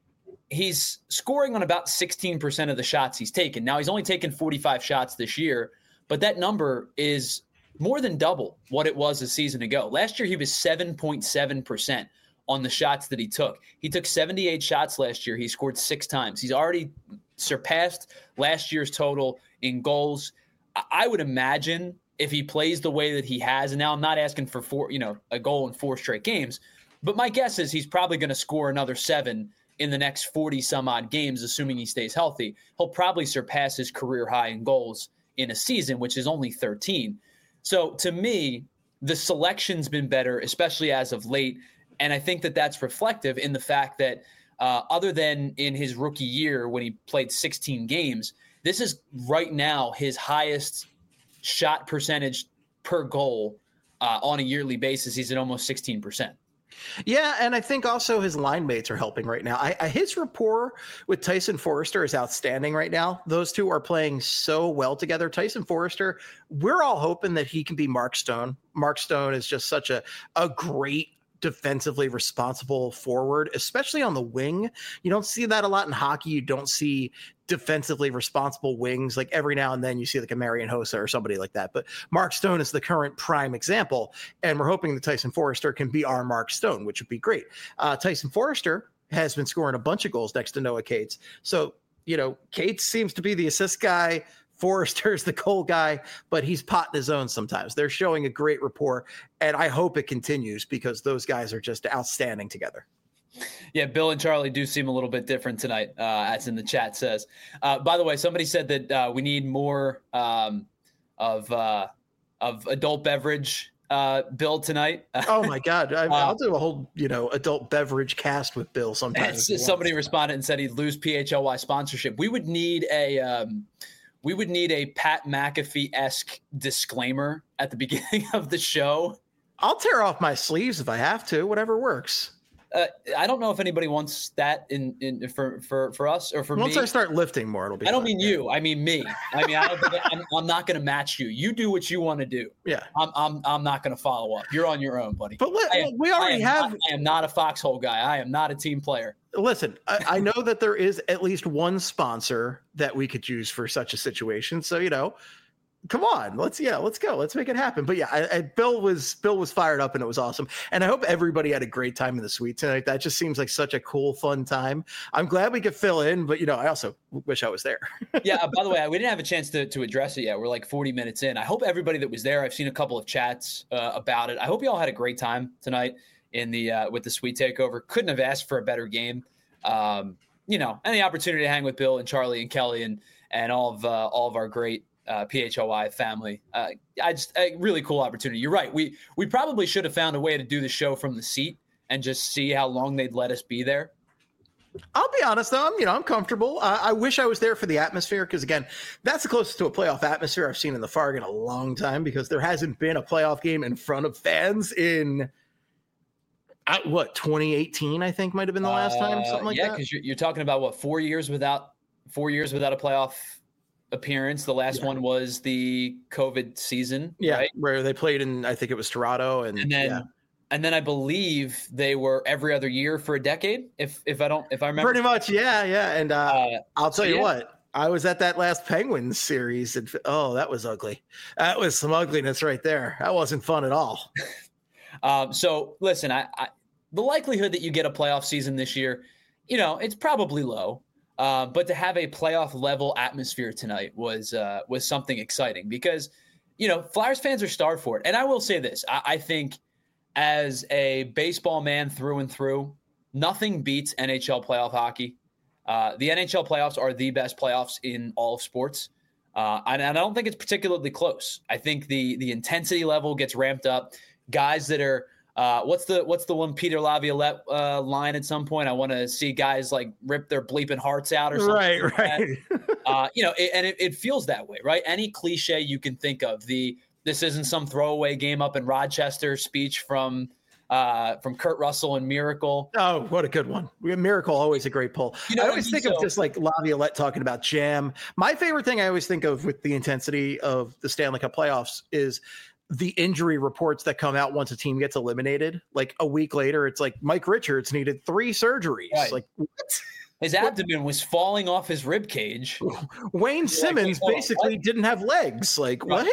He's scoring on about 16% of the shots he's taken. Now, he's only taken 45 shots this year, but that number is more than double what it was a season ago. Last year, he was 7.7% on the shots that he took. He took 78 shots last year. He scored 6 times. He's already surpassed last year's total in goals. I would imagine if he plays the way that he has, and now I'm not asking for a goal in 4 straight games, but my guess is he's probably going to score another 7 in the next 40 some odd games, assuming he stays healthy. He'll probably surpass his career high in goals in a season, which is only 13. So to me, the selection's been better, especially as of late. And I think that that's reflective in the fact that other than in his rookie year when he played 16 games, this is right now his highest shot percentage per goal on a yearly basis. He's at almost 16%. Yeah, and I think also his line mates are helping right now. His rapport with Tyson Foerster is outstanding right now. Those two are playing so well together. Tyson Foerster, we're all hoping that he can be Mark Stone. Mark Stone is just such a great defensively responsible forward, especially on the wing. You don't see that a lot in hockey. You don't see defensively responsible wings. Like every now and then you see like a Marian Hossa or somebody like that. But Mark Stone is the current prime example. And we're hoping that Tyson Foerster can be our Mark Stone, which would be great. Tyson Foerster has been scoring a bunch of goals next to Noah Cates. So, Cates seems to be the assist guy. Forrester's the goal guy, but he's potting his own sometimes. They're showing a great rapport, and I hope it continues because those guys are just outstanding together. Yeah, Bill and Charlie do seem a little bit different tonight, as in the chat says. By the way, somebody said that we need more of adult beverage Bill tonight. Oh my God. I'll do a whole, adult beverage cast with Bill sometime. Somebody responded and said he'd lose PHLY sponsorship. We would need a Pat McAfee-esque disclaimer at the beginning of the show. I'll tear off my sleeves if I have to, whatever works. I don't know if anybody wants that for us or for me. Once I start lifting more, it'll be. I don't mean you. I mean me. I mean, I'm not going to match you. You do what you want to do. Yeah. I'm not going to follow up. You're on your own, buddy. But I am not a foxhole guy. I am not a team player. Listen, I know that there is at least one sponsor that we could use for such a situation. So, come on, let's go. Let's make it happen. But yeah, Bill was fired up and it was awesome. And I hope everybody had a great time in the suite tonight. That just seems like such a cool, fun time. I'm glad we could fill in, but I also wish I was there. Yeah. By the way, we didn't have a chance to address it yet. We're like 40 minutes in. I hope everybody that was there, I've seen a couple of chats about it. I hope you all had a great time tonight in the with the suite takeover. Couldn't have asked for a better game. And the opportunity to hang with Bill and Charlie and Kelly and all of our great PHLY family. A really cool opportunity. You're right. We probably should have found a way to do the show from the seat and just see how long they'd let us be there. I'll be honest though, I'm comfortable. I wish I was there for the atmosphere because again, that's the closest to a playoff atmosphere I've seen in the Farg in a long time because there hasn't been a playoff game in front of fans in 2018 I think might have been the last time, something like that. Yeah, because you're talking about what 4 years without a playoff appearance. The last one was the COVID season, right? Where they played in, I think it was Toronto, and then I believe they were every other year for a decade. If I remember pretty much, yeah. And I'll tell you what, I was at that last Penguins series, and that was ugly. That was some ugliness right there. That wasn't fun at all. So listen, I the likelihood that you get a playoff season this year, it's probably low. But to have a playoff level atmosphere tonight was something exciting because, Flyers fans are starved for it. And I will say this, I think as a baseball man through and through, nothing beats NHL playoff hockey. The NHL playoffs are the best playoffs in all of sports. And I don't think it's particularly close. I think the intensity level gets ramped up. Guys that are what's the one Peter Laviolette line at some point? I want to see guys like rip their bleeping hearts out or something. Right. It feels that way, right? Any cliche you can think of. This isn't some throwaway game up in Rochester speech from Kurt Russell and Miracle. Oh, what a good one. Miracle, always a great pull. I always think of just like Laviolette talking about jam. My favorite thing I always think of with the intensity of the Stanley Cup playoffs is the injury reports that come out once a team gets eliminated. Like a week later, it's like Mike Richards needed 3 surgeries. Right. Like what? His abdomen was falling off his rib cage. Wayne Simmons basically didn't have legs. Like what?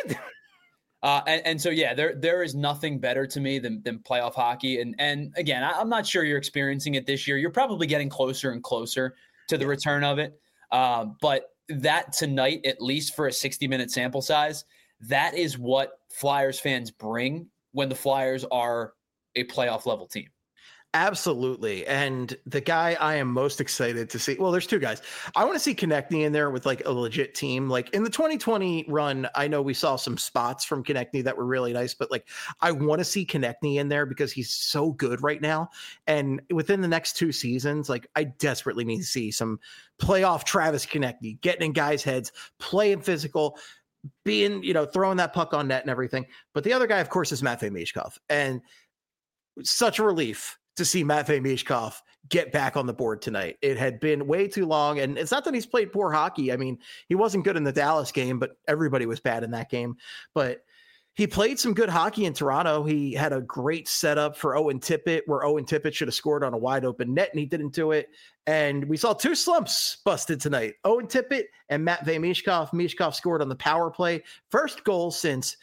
And so, yeah, there is nothing better to me than playoff hockey. And again, I'm not sure you're experiencing it this year. You're probably getting closer and closer to the return of it. But that tonight, at least for a 60-minute sample size, that is what Flyers fans bring when the Flyers are a playoff level team. Absolutely. And the guy I am most excited to see, well, there's 2 guys. I want to see Konechny in there with like a legit team. Like in the 2020 run, I know we saw some spots from Konechny that were really nice, but like I want to see Konechny in there because he's so good right now. And within the next 2 seasons, like I desperately need to see some playoff Travis Konechny getting in guys' heads, playing physical, being, throwing that puck on net and everything. But the other guy, of course, is Matvei Michkov. And such a relief to see Matvei Michkov get back on the board tonight. It had been way too long, and it's not that he's played poor hockey. I mean, he wasn't good in the Dallas game, but everybody was bad in that game. But he played some good hockey in Toronto. He had a great setup for Owen Tippett, where Owen Tippett should have scored on a wide open net, and he didn't do it. And we saw 2 slumps busted tonight. Owen Tippett and Matvei Michkov. Michkov scored on the power play. First goal since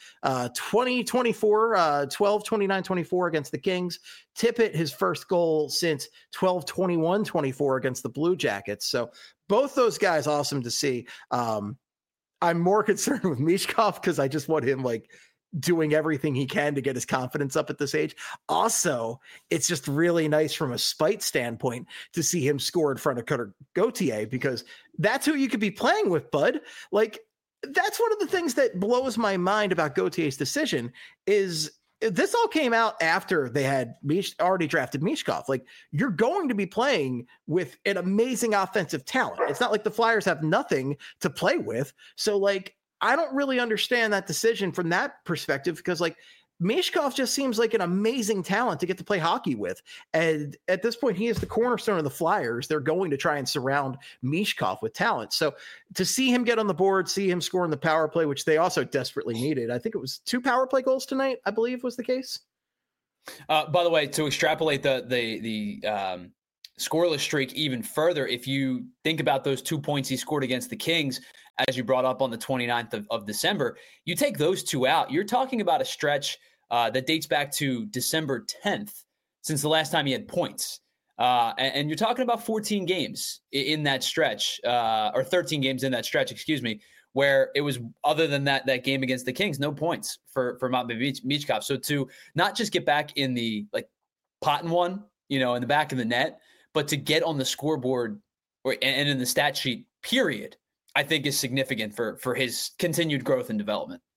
2024, 12-29-24 against the Kings. Tippett, his first goal since 12-21-24 against the Blue Jackets. So both those guys, awesome to see. I'm more concerned with Michkov because I just want him like doing everything he can to get his confidence up at this age. Also, it's just really nice from a spite standpoint to see him score in front of Cutter Gauthier because that's who you could be playing with, bud. Like that's one of the things that blows my mind about Gauthier's decision is this all came out after they had already drafted Michkov. Like you're going to be playing with an amazing offensive talent. It's not like the Flyers have nothing to play with. So like, I don't really understand that decision from that perspective because like Michkov just seems like an amazing talent to get to play hockey with. And at this point, he is the cornerstone of the Flyers. They're going to try and surround Michkov with talent. So to see him get on the board, see him score in the power play, which they also desperately needed. I think it was 2 power play goals tonight, I believe was the case. By the way, to extrapolate the scoreless streak even further, if you think about those 2 points he scored against the Kings, as you brought up on the 29th of December, you take those 2 out, you're talking about a stretch that dates back to December 10th since the last time he had points. And you're talking about 14 games in that stretch, or 13 games in that stretch, excuse me, where it was, other than that game against the Kings, no points for Matvei Michkov. So to not just get back in the like pot and one, in the back of the net, but to get on the scoreboard and in the stat sheet, period, I think is significant for his continued growth and development.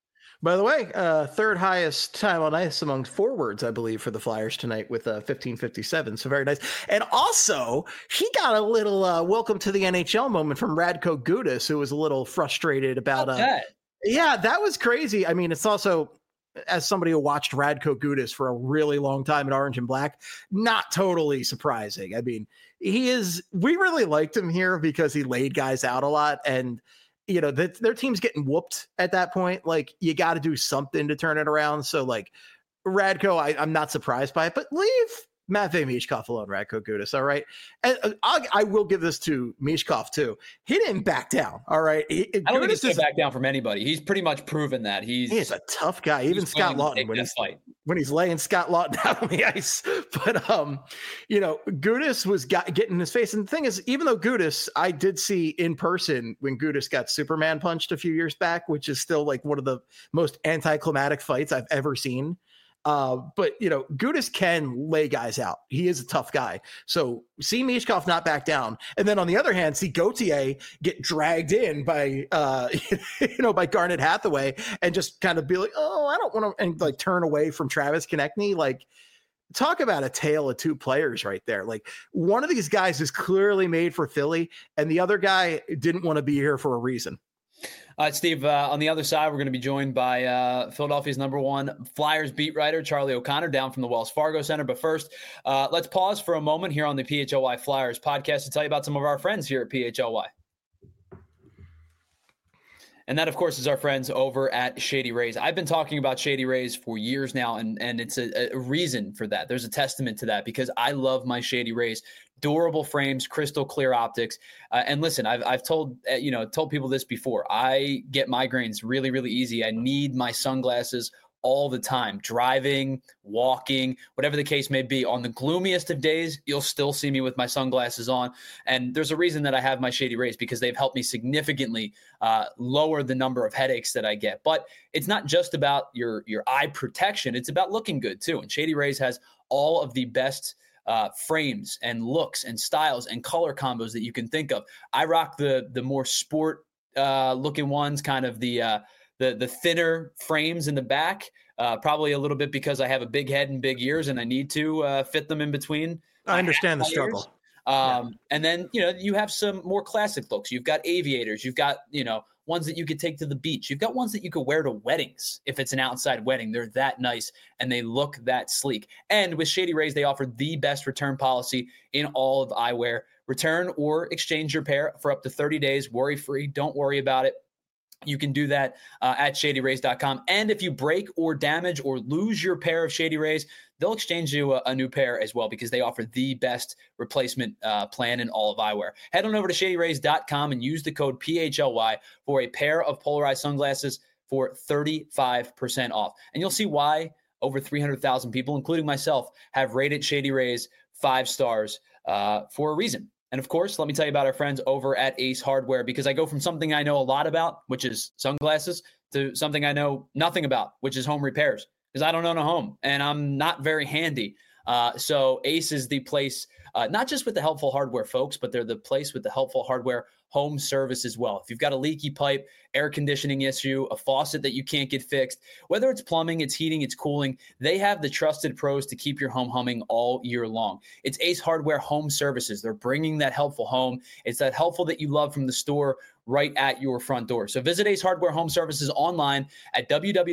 By the way, third highest time on ice among forwards, I believe, for the Flyers tonight with 15:57. So very nice. And also, he got a little welcome to the NHL moment from Radko Gudas, who was a little frustrated about that. Yeah, that was crazy. I mean, it's also, as somebody who watched Radko Gudas for a really long time at Orange and Black, not totally surprising. I mean, we really liked him here because he laid guys out a lot, and you know, their team's getting whooped at that point. Like, you got to do something to turn it around. So, like, Radko, I'm not surprised by it, but leave Matvei Michkov alone, Radko Gudas, all right? And I will give this to Michkov, too. He didn't back down, all right? I don't think he's going to back down from anybody. He's pretty much proven that. He's a tough guy. Even Scott Laughton, when he's laying Scott Laughton out on the ice. But, you know, Gudas was getting in his face. And the thing is, even though Gudas, I did see in person when Gudas got Superman punched a few years back, which is still like one of the most anticlimactic fights I've ever seen. But, you know, Gudas can lay guys out. He is a tough guy. So see Michkov not back down. And then on the other hand, see Gauthier get dragged in by, by Garnet Hathaway and just kind of be like, oh, I don't want to, and like turn away from Travis Konechny. Like, talk about a tale of two players right there. Like, one of these guys is clearly made for Philly and the other guy didn't want to be here for a reason. Steve, on the other side, we're going to be joined by Philadelphia's #1 Flyers beat writer, Charlie O'Connor, down from the Wells Fargo Center. But first, let's pause for a moment here on the PHLY Flyers podcast to tell you about some of our friends here at PHLY. And that, of course, is our friends over at Shady Rays. I've been talking about Shady Rays for years now, and it's a reason for that. There's a testament to that because I love my Shady Rays. Durable frames, crystal clear optics. And listen, I've told people this before. I get migraines really, really easy. I need my sunglasses all the time, driving, walking, whatever the case may be. On the gloomiest of days, you'll still see me with my sunglasses on. And there's a reason that I have my Shady Rays because they've helped me significantly lower the number of headaches that I get. But it's not just about your eye protection. It's about looking good too. And Shady Rays has all of the best frames and looks and styles and color combos that you can think of. I rock the more sport looking ones, kind of the thinner frames in the back, probably a little bit because I have a big head and big ears and I need to fit them in between. I understand the struggle. And then, you have some more classic looks. You've got aviators. You've got, ones that you could take to the beach. You've got ones that you could wear to weddings. If it's an outside wedding, they're that nice and they look that sleek. And with Shady Rays, they offer the best return policy in all of eyewear. Return or exchange your pair for up to 30 days, worry-free. Don't worry about it. You can do that at ShadyRays.com. And if you break or damage or lose your pair of Shady Rays, they'll exchange you a new pair as well because they offer the best replacement plan in all of eyewear. Head on over to ShadyRays.com and use the code PHLY for a pair of polarized sunglasses for 35% off. And you'll see why over 300,000 people, including myself, have rated Shady Rays 5 stars for a reason. And of course, let me tell you about our friends over at Ace Hardware, because I go from something I know a lot about, which is sunglasses, to something I know nothing about, which is home repairs, because I don't own a home and I'm not very handy. So Ace is the place, not just with the helpful hardware folks, but they're the place with the helpful hardware home service as well. If you've got a leaky pipe, air conditioning issue, a faucet that you can't get fixed, whether it's plumbing, it's heating, it's cooling, they have the trusted pros to keep your home humming all year long. It's Ace Hardware Home Services. They're bringing that helpful home. It's that helpful that you love from the store right at your front door. So visit Ace Hardware Home Services online at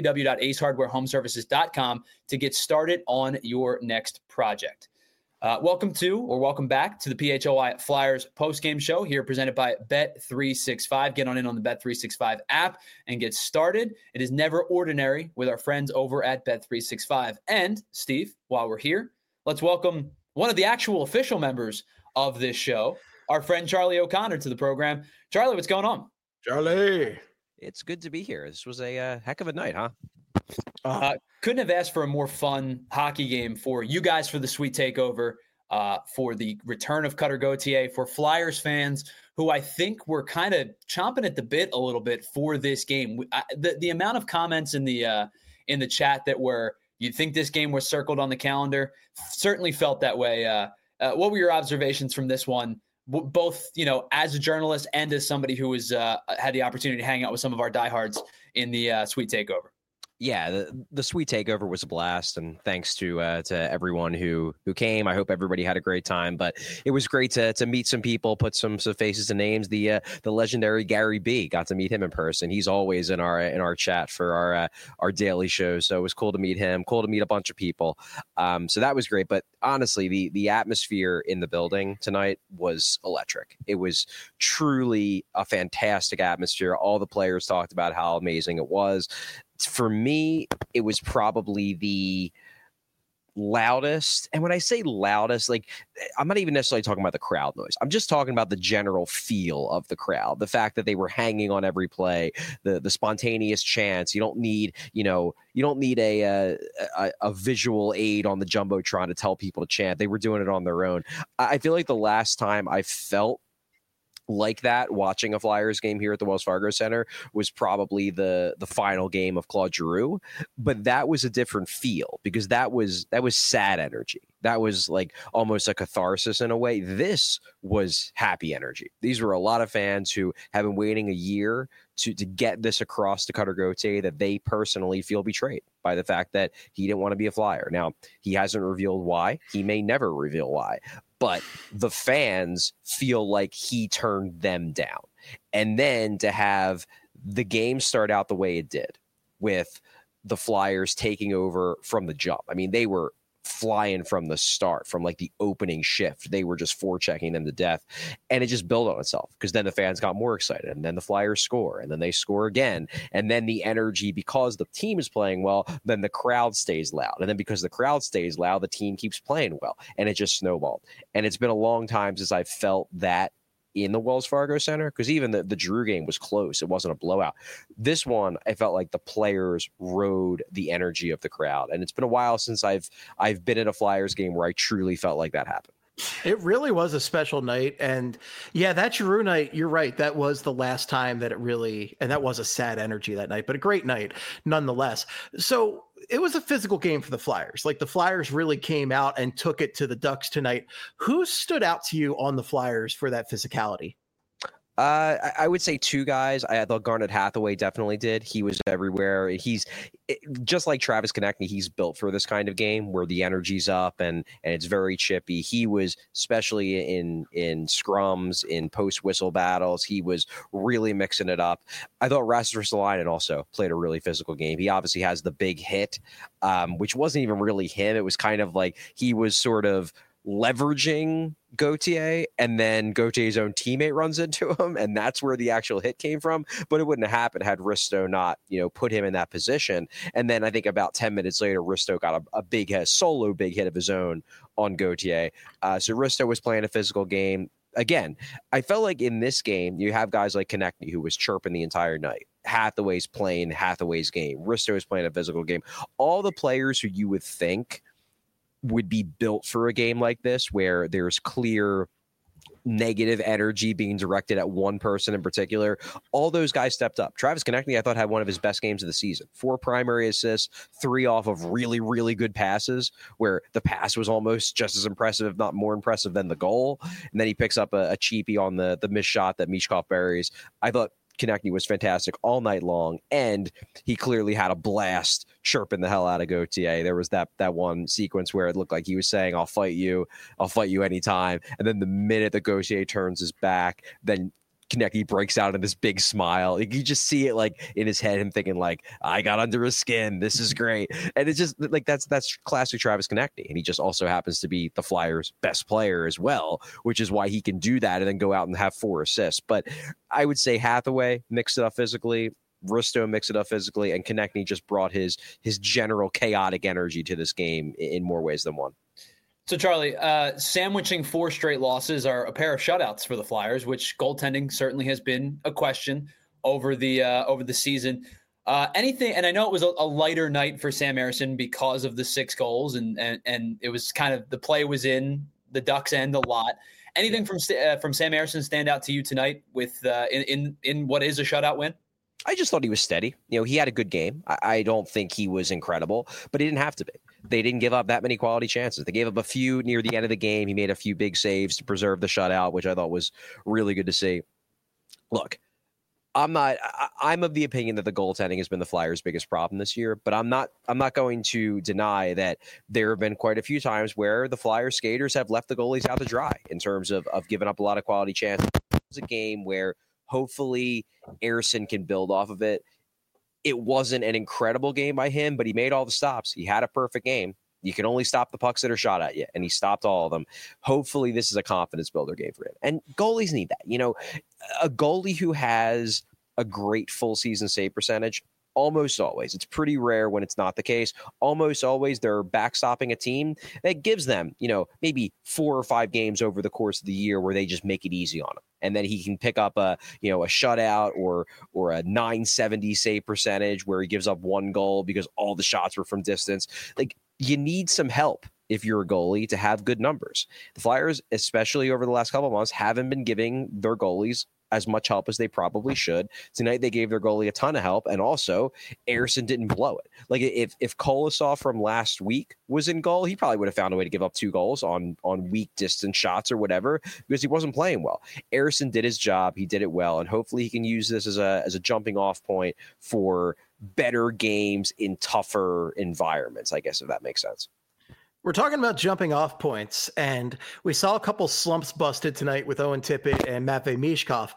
www.acehardwarehomeservices.com to get started on your next project. Welcome back to the PHLY Flyers postgame show here presented by Bet365. Get on the Bet365 app and get started. It is never ordinary with our friends over at Bet365. And Steve, while we're here, let's welcome one of the actual official members of this show, our friend Charlie O'Connor, to the program. Charlie, what's going on? Charlie. It's good to be here. This was a heck of a night, huh? Couldn't have asked for a more fun hockey game for you guys for the Sweet Takeover, for the return of Cutter Gauthier, for Flyers fans who I think were kind of chomping at the bit a little bit for this game. The amount of comments in the chat that were, you'd think this game was circled on the calendar, certainly felt that way. What were your observations from this one? Both, as a journalist and as somebody who was had the opportunity to hang out with some of our diehards in the Sweet Takeover. Yeah, the sweet takeover was a blast, and thanks to everyone who came. I hope everybody had a great time. But it was great to meet some people, put some faces to names. The legendary Gary B, got to meet him in person. He's always in our chat for our daily shows, so it was cool to meet him. Cool to meet a bunch of people. So that was great. But honestly, the atmosphere in the building tonight was electric. It was truly a fantastic atmosphere. All the players talked about how amazing it was. For me, it was probably the loudest. And when I say loudest, like, I'm not even necessarily talking about the crowd noise. I'm just talking about the general feel of the crowd. The fact that they were hanging on every play, the spontaneous chants. You don't need a visual aid on the Jumbotron to tell people to chant. They were doing it on their own. I feel like the last time I felt like that watching a Flyers game here at the Wells Fargo Center was probably the final game of Claude Giroux, but that was a different feel because that was sad energy. That was like almost a catharsis in a way. This was happy energy. These were a lot of fans who have been waiting a year to get this across to Cutter Gauthier that they personally feel betrayed by the fact that he didn't want to be a Flyer. Now, he hasn't revealed why. He may never reveal why. But the fans feel like he turned them down. And then to have the game start out the way it did with the Flyers taking over from the jump. I mean, they were flying from the start, from like the opening shift. They were just forechecking them to death. And it just built on itself because then the fans got more excited and then the Flyers score and then they score again. And then the energy, because the team is playing well, then the crowd stays loud. And then because the crowd stays loud, the team keeps playing well. And it just snowballed. And it's been a long time since I've felt that in the Wells Fargo Center, because even the Drew game was close. It wasn't a blowout. This one, I felt like the players rode the energy of the crowd. And it's been a while since I've been at a Flyers game where I truly felt like that happened. It really was a special night. And yeah, that Giroux night, you're right. That was the last time that it really, and that was a sad energy that night, but a great night nonetheless. So it was a physical game for the Flyers. Like the Flyers really came out and took it to the Ducks tonight. Who stood out to you on the Flyers for that physicality? I would say two guys. I thought Garnet Hathaway definitely did. He was everywhere. He's just like Travis Konecny. He's built for this kind of game where the energy's up and it's very chippy. He was, especially in scrums, in post whistle battles, he was really mixing it up. I thought Rasmus Ristolainen also played a really physical game. He obviously has the big hit, which wasn't even really him. It was kind of like he was sort of leveraging Gauthier, and then Gauthier's own teammate runs into him, and that's where the actual hit came from. But it wouldn't have happened had Risto not, put him in that position. And then I think about 10 minutes later, Risto got a solo big hit of his own on Gauthier. So Risto was playing a physical game. Again, I felt like in this game, you have guys like Konecny who was chirping the entire night. Hathaway's playing Hathaway's game. Risto is playing a physical game. All the players who you would think would be built for a game like this, where there's clear negative energy being directed at one person in particular. All those guys stepped up. Travis Konecny, I thought, had one of his best games of the season. 4 primary assists, 3 off of really, really good passes, where the pass was almost just as impressive, if not more impressive than the goal. And then he picks up a cheapie on the missed shot that Michkov buries. I thought Konecny was fantastic all night long, and he clearly had a blast chirping the hell out of Gauthier. There was that one sequence where it looked like he was saying, I'll fight you anytime. And then the minute that Gauthier turns his back, then Konecny breaks out in this big smile. You just see it like in his head, him thinking like, I got under his skin. This is great. And it's just like, that's classic Travis Konecny. And he just also happens to be the Flyers' best player as well, which is why he can do that and then go out and have 4 assists. But I would say Hathaway mixed it up physically, Risto mixed it up physically, and Konecny just brought his general chaotic energy to this game in more ways than one. So, Charlie, sandwiching 4 straight losses are a pair of shutouts for the Flyers, which goaltending certainly has been a question over the season. Anything, and I know it was a lighter night for Sam Ersson because of the 6 goals, and it was kind of the play was in the Ducks' end a lot. Anything from Sam Ersson stand out to you tonight with in what is a shutout win? I just thought he was steady. He had a good game. I don't think he was incredible, but he didn't have to be. They didn't give up that many quality chances. They gave up a few near the end of the game. He made a few big saves to preserve the shutout, which I thought was really good to see. Look, I'm I'm of the opinion that the goaltending has been the Flyers' biggest problem this year, but I'm not going to deny that there have been quite a few times where the Flyers skaters have left the goalies out to dry in terms of giving up a lot of quality chances. It's a game where hopefully Ersson can build off of it. It wasn't an incredible game by him, but he made all the stops. He had a perfect game. You can only stop the pucks that are shot at you, and he stopped all of them. Hopefully this is a confidence builder game for him. And goalies need that. You know, a goalie who has a great full season save percentage, almost always, it's pretty rare when it's not the case, almost always they're backstopping a team that gives them, you know, maybe 4 or 5 games over the course of the year where they just make it easy on him. And then he can pick up a shutout or a 970 save percentage where he gives up 1 goal because all the shots were from distance. Like, you need some help if you're a goalie to have good numbers. The Flyers, especially over the last couple of months, haven't been giving their goalies as much help as they probably should. Tonight, they gave their goalie a ton of help, and also Ersson didn't blow it. Like, if Kolosov from last week was in goal, he probably would have found a way to give up 2 goals on weak distance shots or whatever because he wasn't playing well. Ersson did his job. He did it well, and hopefully he can use this as a jumping off point for better games in tougher environments, I guess, if that makes sense. We're talking about jumping off points, and we saw a couple slumps busted tonight with Owen Tippett and Matvei Michkov.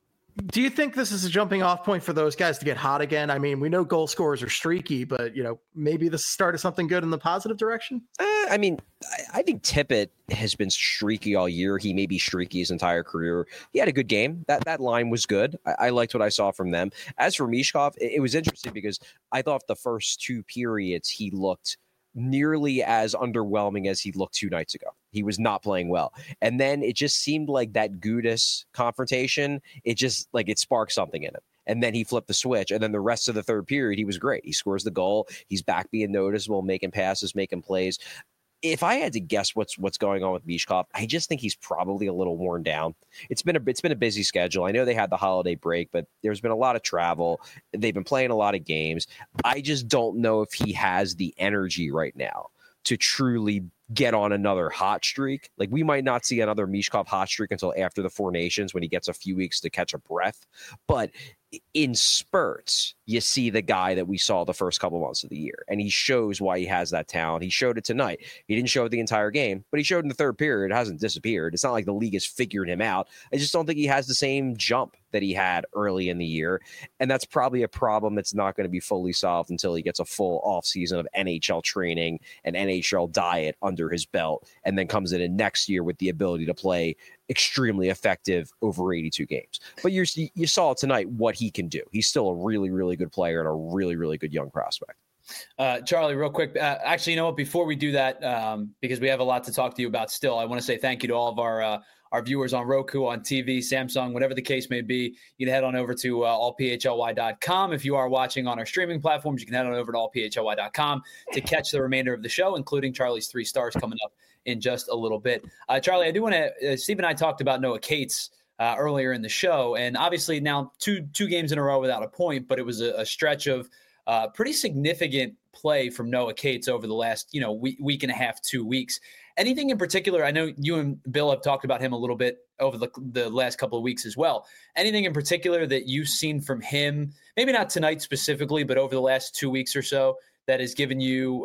Do you think this is a jumping off point for those guys to get hot again? I mean, we know goal scorers are streaky, but, you know, maybe this started something good in the positive direction? I mean, I think Tippett has been streaky all year. He may be streaky his entire career. He had a good game. That line was good. I liked what I saw from them. As for Michkov, it was interesting because I thought the first 2 periods he looked nearly as underwhelming as he looked 2 nights ago. He was not playing well. And then it just seemed like that Gudas confrontation, it sparked something in him. And then he flipped the switch. And then the rest of the third period, he was great. He scores the goal. He's back being noticeable, making passes, making plays. If I had to guess what's going on with Michkov, I just think he's probably a little worn down. It's been a busy schedule. I know they had the holiday break, but there's been a lot of travel. They've been playing a lot of games. I just don't know if he has the energy right now to truly get on another hot streak. Like, we might not see another Michkov hot streak until after the 4 Nations when he gets a few weeks to catch a breath. But in spurts, you see the guy that we saw the first couple months of the year, and he shows why he has that talent. He showed it tonight. He didn't show it the entire game, but he showed in the third period. It hasn't disappeared. It's not like the league has figured him out. I just don't think he has the same jump that he had early in the year, and that's probably a problem that's not going to be fully solved until he gets a full offseason of NHL training and NHL diet under his belt, and then comes in next year with the ability to play extremely effective over 82 games. But you saw tonight what he can do. He's still a really, really good player and a really, really good young prospect. Charlie, real quick. Actually, you know what? Before we do that, because we have a lot to talk to you about still, I want to say thank you to all of our viewers on Roku, on TV, Samsung, whatever the case may be. You can head on over to allphly.com. If you are watching on our streaming platforms, you can head on over to allphly.com to catch the remainder of the show, including Charlie's 3 stars coming up in just a little bit. Charlie, I do want to Steve and I talked about Noah Cates earlier in the show, and obviously now two games in a row without a point, but it was a stretch of pretty significant play from Noah Cates over the last week and a half, 2 weeks. Anything in particular? I know you and Bill have talked about him a little bit over the last couple of weeks as well. Anything in particular that you've seen from him, maybe not tonight specifically, but over the last 2 weeks or so, that has given you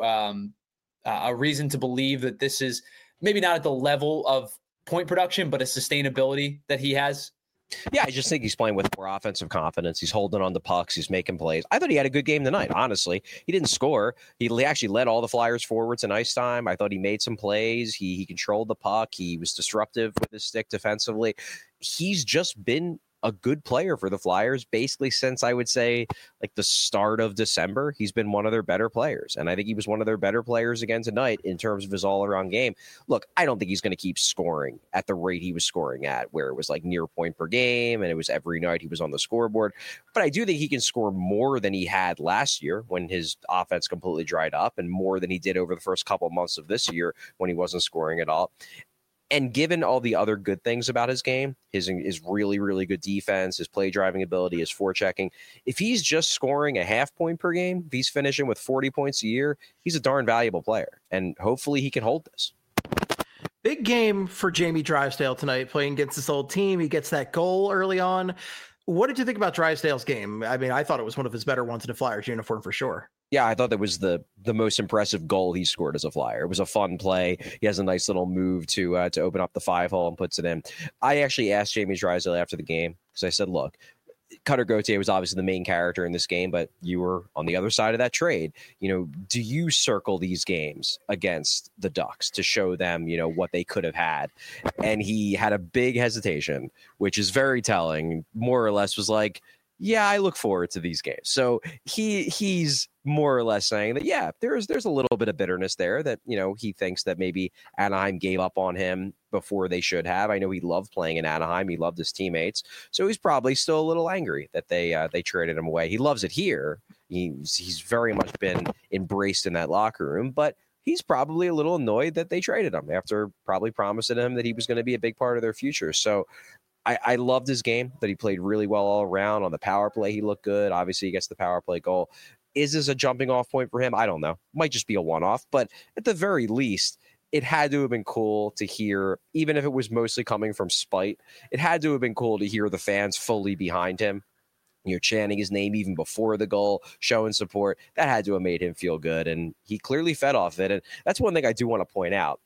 a reason to believe that this is maybe not at the level of point production, but a sustainability that he has? Yeah, I just think he's playing with more offensive confidence. He's holding on to pucks. He's making plays. I thought he had a good game tonight, honestly. He didn't score. He actually led all the Flyers forwards in ice time. I thought he made some plays. He controlled the puck. He was disruptive with his stick defensively. He's just been a good player for the Flyers basically since, I would say, like the start of December. He's been one of their better players, and I think he was one of their better players again tonight in terms of his all-around game. Look, I don't think he's going to keep scoring at the rate he was scoring at, where it was like near point per game and it was every night he was on the scoreboard, but I do think he can score more than he had last year when his offense completely dried up, and more than he did over the first couple of months of this year when he wasn't scoring at all. And given all the other good things about his game, his really, really good defense, his play driving ability, his forechecking, if he's just scoring a half point per game, if he's finishing with 40 points a year, he's a darn valuable player. And hopefully he can hold this. Big game for Jamie Drysdale tonight, playing against this old team. He gets that goal early on. What did you think about Drysdale's game? I mean, I thought it was one of his better ones in a Flyers uniform for sure. Yeah, I thought that was the most impressive goal he scored as a Flyer. It was a fun play. He has a nice little move to open up the 5-hole and puts it in. I actually asked Jamie Drysdale after the game because I said, look, Cutter Gauthier was obviously the main character in this game, but you were on the other side of that trade. Do you circle these games against the Ducks to show them, what they could have had? And he had a big hesitation, which is very telling. More or less was like, yeah, I look forward to these games. So he's more or less saying that, yeah, there's a little bit of bitterness there that, he thinks that maybe Anaheim gave up on him before they should have. I know he loved playing in Anaheim. He loved his teammates. So he's probably still a little angry that they traded him away. He loves it here. He's very much been embraced in that locker room, but he's probably a little annoyed that they traded him after probably promising him that he was going to be a big part of their future. So I loved his game, that he played really well all around. On the power play, he looked good. Obviously, he gets the power play goal. Is this a jumping off point for him? I don't know. Might just be a one-off. But at the very least, it had to have been cool to hear, even if it was mostly coming from spite, it had to have been cool to hear the fans fully behind him. Chanting his name even before the goal, showing support. That had to have made him feel good. And he clearly fed off it. And that's one thing I do want to point out.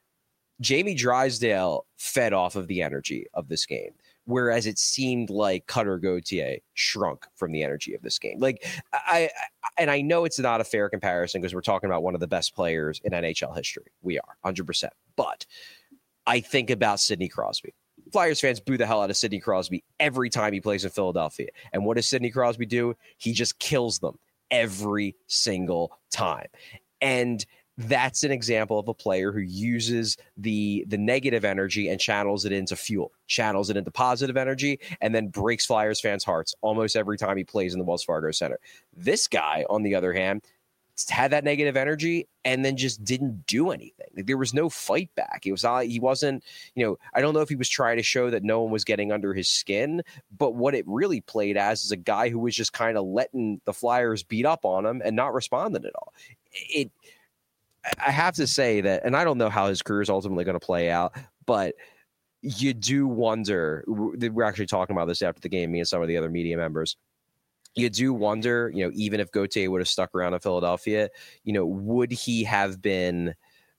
Jamie Drysdale fed off of the energy of this game, whereas it seemed like Cutter Gauthier shrunk from the energy of this game. Like I know it's not a fair comparison because we're talking about one of the best players in NHL history. We are 100%. But I think about Sidney Crosby. Flyers fans boo the hell out of Sidney Crosby every time he plays in Philadelphia. And what does Sidney Crosby do? He just kills them every single time. And that's an example of a player who uses the negative energy and channels it into fuel, channels it into positive energy, and then breaks Flyers fans' hearts almost every time he plays in the Wells Fargo Center. This guy, on the other hand, had that negative energy and then just didn't do anything. Like, there was no fight back. He wasn't, I don't know if he was trying to show that no one was getting under his skin, but what it really played as is a guy who was just kind of letting the Flyers beat up on him and not responding at all. I have to say that, and I don't know how his career is ultimately going to play out, but you do wonder, we're actually talking about this after the game, me and some of the other media members, you do wonder, even if Gauthier would have stuck around in Philadelphia, would he have been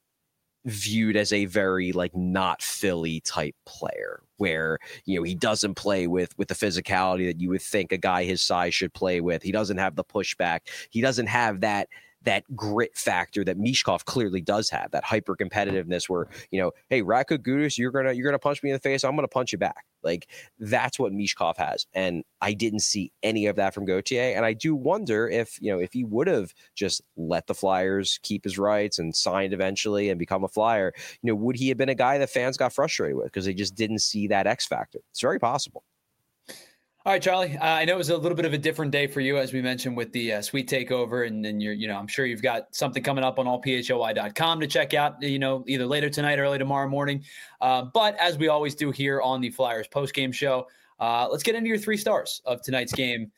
viewed as a very not Philly type player where, he doesn't play with the physicality that you would think a guy his size should play with. He doesn't have the pushback. He doesn't have that grit factor that Michkov clearly does have, that hyper competitiveness where, hey, Radko Gudas, you're gonna punch me in the face, I'm gonna punch you back. Like, that's what Michkov has. And I didn't see any of that from Gauthier. And I do wonder if he would have just let the Flyers keep his rights and signed eventually and become a Flyer, would he have been a guy that fans got frustrated with because they just didn't see that X factor? It's very possible. All right, Charlie. I know it was a little bit of a different day for you, as we mentioned, with the Sweet Takeover, and you're, I'm sure you've got something coming up on allphoy.com to check out, either later tonight or early tomorrow morning. But as we always do here on the Flyers postgame show, let's get into your 3 stars of tonight's game.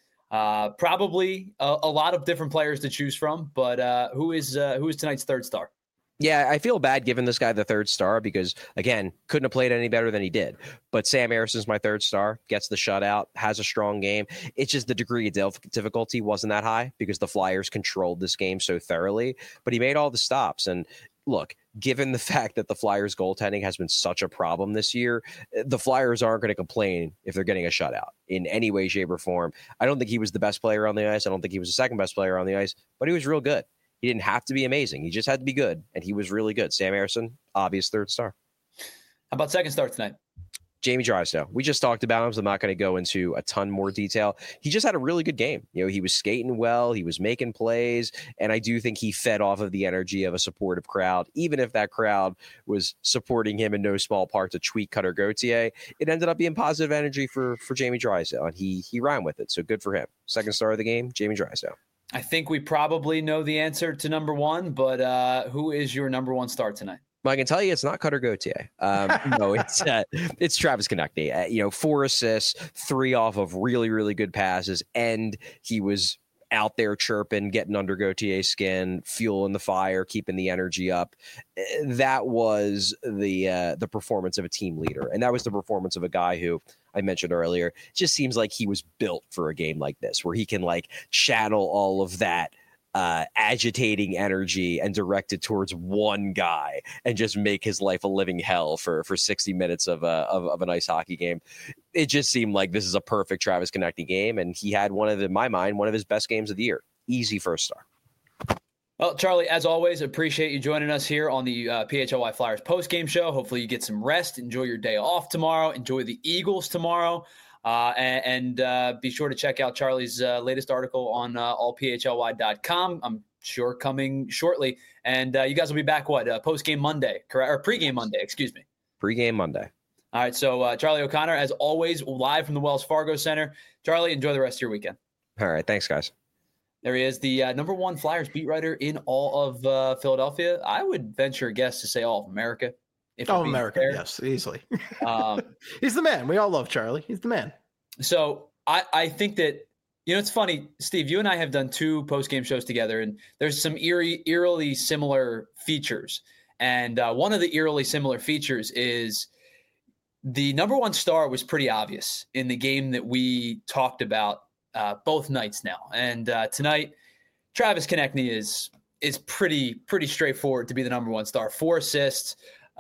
Probably a lot of different players to choose from, but who is tonight's 3rd star? Yeah, I feel bad giving this guy the 3rd star because, again, couldn't have played any better than he did. But Sam Erson's my 3rd star, gets the shutout, has a strong game. It's just the degree of difficulty wasn't that high because the Flyers controlled this game so thoroughly. But he made all the stops. And look, given the fact that the Flyers goaltending has been such a problem this year, the Flyers aren't going to complain if they're getting a shutout in any way, shape, or form. I don't think he was the best player on the ice. I don't think he was the second best player on the ice, but he was real good. He didn't have to be amazing. He just had to be good, and he was really good. Sam Ersson, obvious 3rd star. How about 2nd star tonight? Jamie Drysdale. We just talked about him, so I'm not going to go into a ton more detail. He just had a really good game. He was skating well. He was making plays, and I do think he fed off of the energy of a supportive crowd. Even if that crowd was supporting him in no small part to tweak Cutter Gauthier, it ended up being positive energy for Jamie Drysdale, and he ran with it, so good for him. 2nd star of the game, Jamie Drysdale. I think we probably know the answer to number 1, but who is your number 1 star tonight? Well, I can tell you it's not Cutter Gauthier. No, it's Travis Konecny. 4 assists, 3 off of really, really good passes, and he was out there chirping, getting under Gautier's skin, fueling the fire, keeping the energy up. That was the performance of a team leader. And that was the performance of a guy who I mentioned earlier, just seems like he was built for a game like this, where he can like channel all of that agitating energy and direct it towards one guy and just make his life a living hell for 60 minutes of an ice hockey game. It just seemed like this is a perfect Travis Konecny game, and he had in my mind, one of his best games of the year. Easy first star. Well, Charlie, as always, appreciate you joining us here on the PHLY Flyers post-game show. Hopefully you get some rest, enjoy your day off tomorrow, enjoy the Eagles tomorrow. And be sure to check out Charlie's latest article on allphly.com. I'm sure coming shortly. And you guys will be back, post-game Monday, correct? Or pre-game Monday, excuse me. Pre-game Monday. All right, so Charlie O'Connor, as always, live from the Wells Fargo Center. Charlie, enjoy the rest of your weekend. All right, thanks, guys. There he is, the number one Flyers beat writer in all of Philadelphia. I would venture a guess to say all of America. America, yes, easily. He's the man. We all love Charlie. He's the man. So I think that, it's funny, Steve, you and I have done 2 post-game shows together, and there's some eerily similar features. And one of the eerily similar features is the number one star was pretty obvious in the game that we talked about both nights now. And tonight, Travis Konecny is pretty straightforward to be the number one star. 4 assists,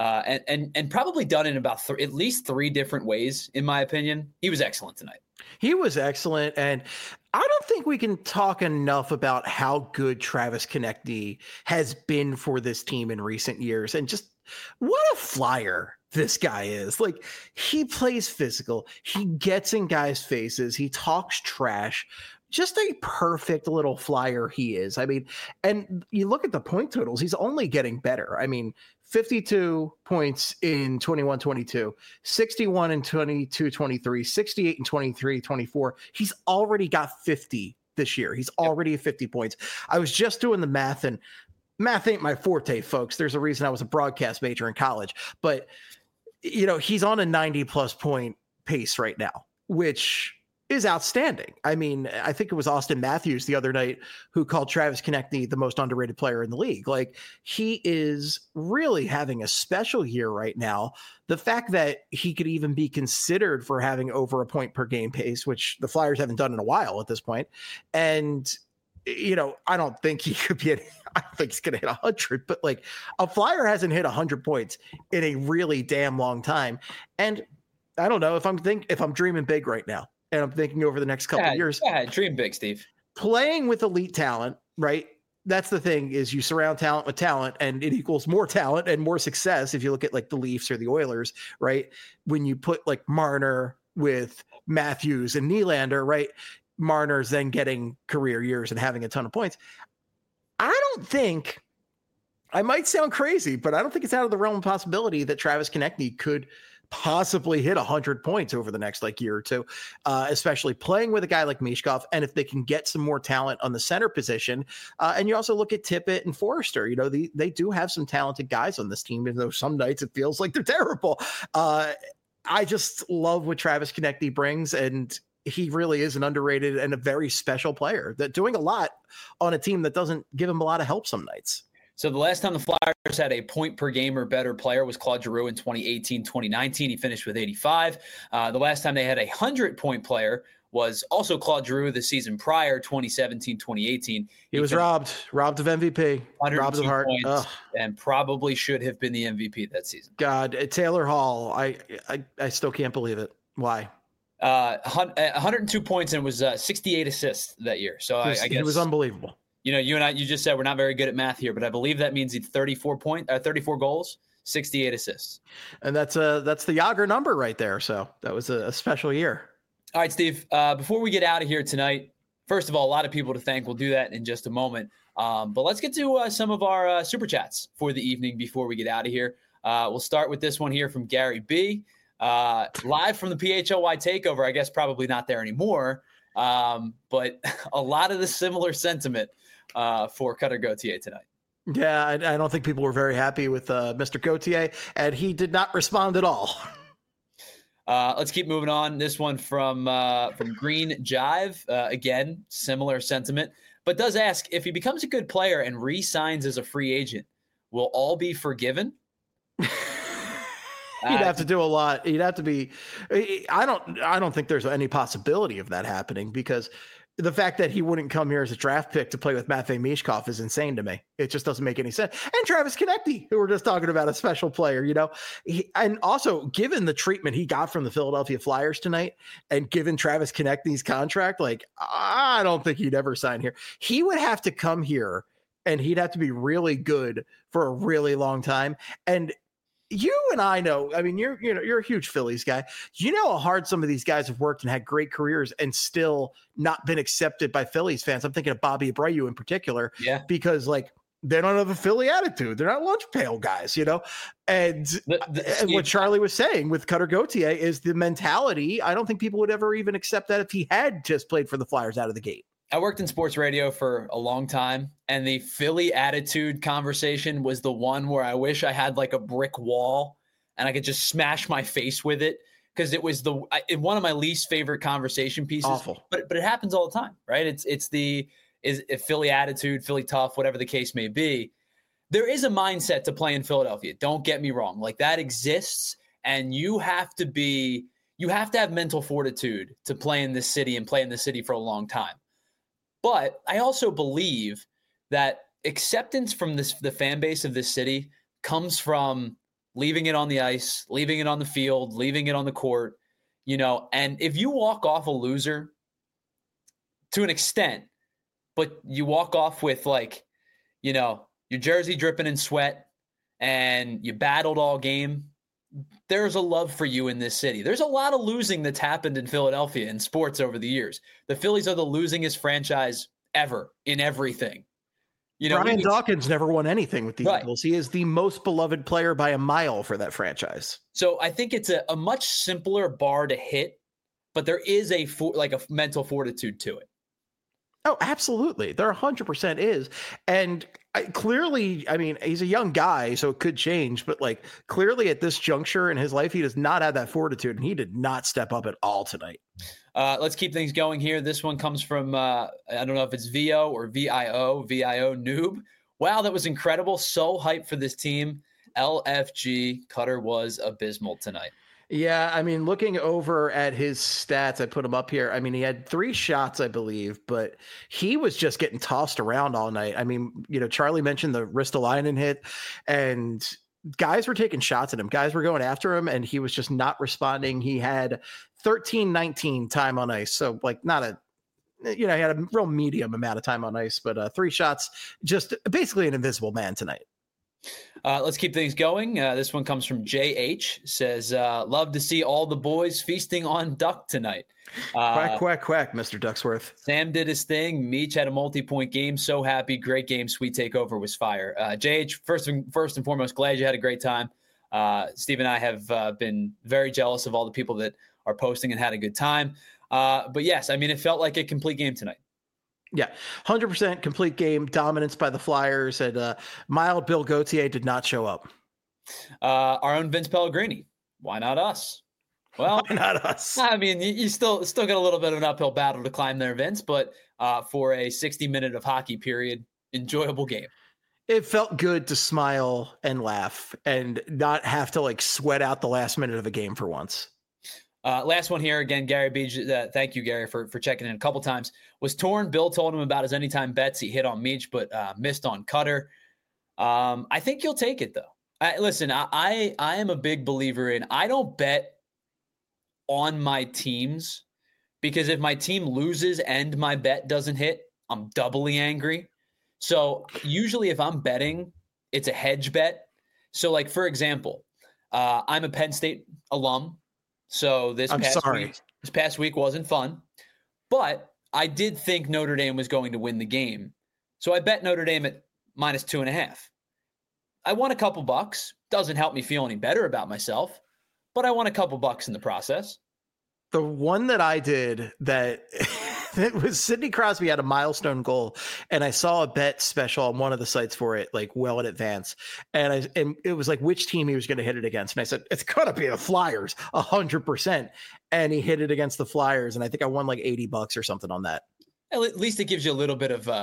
and probably done in about at least 3 different ways, in my opinion. He was excellent tonight. He was excellent, and I don't think we can talk enough about how good Travis Konecny has been for this team in recent years, and just what a Flyer this guy is. Like, he plays physical, he gets in guys' faces, he talks trash. Just a perfect little Flyer he is. I mean, and you look at the point totals, he's only getting better. I mean, 52 points in 21-22, 61 in 22-23, 68 in 23-24. He's already got 50 this year. He's already at 50 points. I was just doing the math, and math ain't my forte, folks. There's a reason I was a broadcast major in college. But, he's on a 90-plus point pace right now, which is outstanding. I mean, I think it was Austin Matthews the other night who called Travis Konecny the most underrated player in the league. Like, he is really having a special year right now. The fact that he could even be considered for having over a point per game pace, which the Flyers haven't done in a while at this point. And, I don't think he could be I don't think he's going to hit 100, but like, a Flyer hasn't hit 100 points in a really damn long time. And I don't know if I'm dreaming big right now. And I'm thinking over the next couple of years. Yeah, dream big, Steve. Playing with elite talent, right? That's the thing, is you surround talent with talent, and it equals more talent and more success. If you look at like the Leafs or the Oilers, right? When you put like Marner with Matthews and Nylander, right? Marner's then getting career years and having a ton of points. I don't think, I might sound crazy, but I don't think it's out of the realm of possibility that Travis Konecny could possibly hit 100 points over the next year or two, especially playing with a guy like Michkov. And if they can get some more talent on the center position, and you also look at Tippett and Forrester, they do have some talented guys on this team, even though some nights it feels like they're terrible. I just love what Travis Konecny brings, and he really is an underrated and a very special player that doing a lot on a team that doesn't give him a lot of help some nights. So the last time the Flyers had a point per game or better player was Claude Giroux in 2018-2019. He finished with 85. The last time they had a 100-point player was also Claude Giroux the season prior, 2017-2018. He was robbed of MVP, robbed of Hart, and probably should have been the MVP that season. God, Taylor Hall, I still can't believe it. Why? 102 points and was 68 assists that year. So I guess it was unbelievable. You and I, you just said we're not very good at math here, but I believe that means he's 34 goals, 68 assists. And that's the Jágr number right there. So that was a special year. All right, Steve, before we get out of here tonight, first of all, a lot of people to thank. We'll do that in just a moment. But let's get to some of our super chats for the evening before we get out of here. We'll start with this one here from Gary B. Live from the PHLY takeover. I guess probably not there anymore. But a lot of the similar sentiment for Cutter Gauthier tonight. Yeah, I don't think people were very happy with Mr. Gauthier, and he did not respond at all. Let's keep moving on. This one from Green Jive. Again, similar sentiment, but does ask, if he becomes a good player and re-signs as a free agent, will all be forgiven? He'd have to do a lot. He'd have to be. I don't think there's any possibility of that happening, because the fact that he wouldn't come here as a draft pick to play with Matvei Mishkov is insane to me. It just doesn't make any sense. And Travis Konecny, who we're just talking about, a special player, and also given the treatment he got from the Philadelphia Flyers tonight, and given Travis Konechny's contract, I don't think he'd ever sign here. He would have to come here, and he'd have to be really good for a really long time. And you and I know, I mean, you're a huge Phillies guy. You know how hard some of these guys have worked and had great careers and still not been accepted by Phillies fans. I'm thinking of Bobby Abreu in particular, because they don't have a Philly attitude. They're not lunch pail guys, And what Charlie was saying with Cutter Gauthier is the mentality. I don't think people would ever even accept that if he had just played for the Flyers out of the gate. I worked in sports radio for a long time, and the Philly attitude conversation was the one where I wish I had like a brick wall and I could just smash my face with it, because it was one of my least favorite conversation pieces. Awful. But it happens all the time, right? It's Philly attitude, Philly tough, whatever the case may be. There is a mindset to play in Philadelphia. Don't get me wrong. Like, that exists, and you have to have mental fortitude to play in this city and play in this city for a long time. But I also believe that acceptance from the fan base of this city comes from leaving it on the ice, leaving it on the field, leaving it on the court, and if you walk off a loser to an extent, but you walk off with your jersey dripping in sweat and you battled all game, there's a love for you in this city. There's a lot of losing that's happened in Philadelphia in sports over the years. The Phillies are the losingest franchise ever in everything. Brian Dawkins never won anything with the Eagles. He is the most beloved player by a mile for that franchise. So I think it's a much simpler bar to hit, but there is a mental fortitude to it. Oh, absolutely. There 100% is. And clearly, I mean, he's a young guy, so it could change. But clearly at this juncture in his life, he does not have that fortitude, and he did not step up at all tonight. Let's keep things going here. This one comes from, I don't know if it's VO or VIO Noob. Wow, that was incredible. So hyped for this team. LFG, Cutter was abysmal tonight. Yeah, I mean, looking over at his stats, I put him up here. I mean, he had 3 shots, I believe, but he was just getting tossed around all night. I mean, Charlie mentioned the Ristolainen hit, and guys were taking shots at him. Guys were going after him, and he was just not responding. He had 13-19 time on ice. So he had a real medium amount of time on ice, but 3 shots, just basically an invisible man tonight. Let's keep things going. This one comes from JH. Says, love to see all the boys feasting on duck tonight. Quack, quack, quack, Mr. Ducksworth. Sam did his thing. Meech had a multi-point game. So happy. Great game. Sweet takeover was fire. JH, first and foremost, glad you had a great time. Steve and I have been very jealous of all the people that are posting and had a good time. But yes, I mean, it felt like a complete game tonight. Yeah, 100% complete game, dominance by the Flyers, and mild Bill Gauthier did not show up. Our own Vince Pellegrini. Why not us? Well, why not us? I mean, you still got a little bit of an uphill battle to climb there, Vince, but for a 60-minute of hockey period, enjoyable game. It felt good to smile and laugh and not have to sweat out the last minute of a game for once. Last one here again, Gary Beach. Thank you, Gary, for checking in a couple times. Was torn. Bill told him about his anytime bets. He hit on Meech, but missed on Cutter. I think you'll take it though. Listen, I am a big believer in. I don't bet on my teams, because if my team loses and my bet doesn't hit, I'm doubly angry. So usually, if I'm betting, it's a hedge bet. So, for example, I'm a Penn State alum. So this past week wasn't fun, but I did think Notre Dame was going to win the game. So I bet Notre Dame at -2.5. I won a couple bucks. Doesn't help me feel any better about myself, but I won a couple bucks in the process. The one that I did that It was Sidney Crosby had a milestone goal, and I saw a bet special on one of the sites for it, like well in advance. And it was like which team he was going to hit it against. And I said, it's going to be the Flyers 100%. And he hit it against the Flyers. And I think I won like $80 or something on that. At least it gives you a little bit of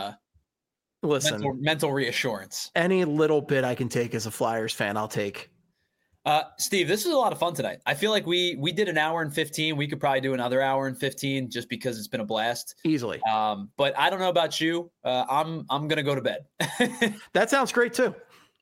mental reassurance. Any little bit I can take as a Flyers fan, I'll take. Steve, this was a lot of fun tonight. I feel like we did an hour and 15. We could probably do another hour and 15 just because it's been a blast. Easily. But I don't know about you. I'm going to go to bed. That sounds great too.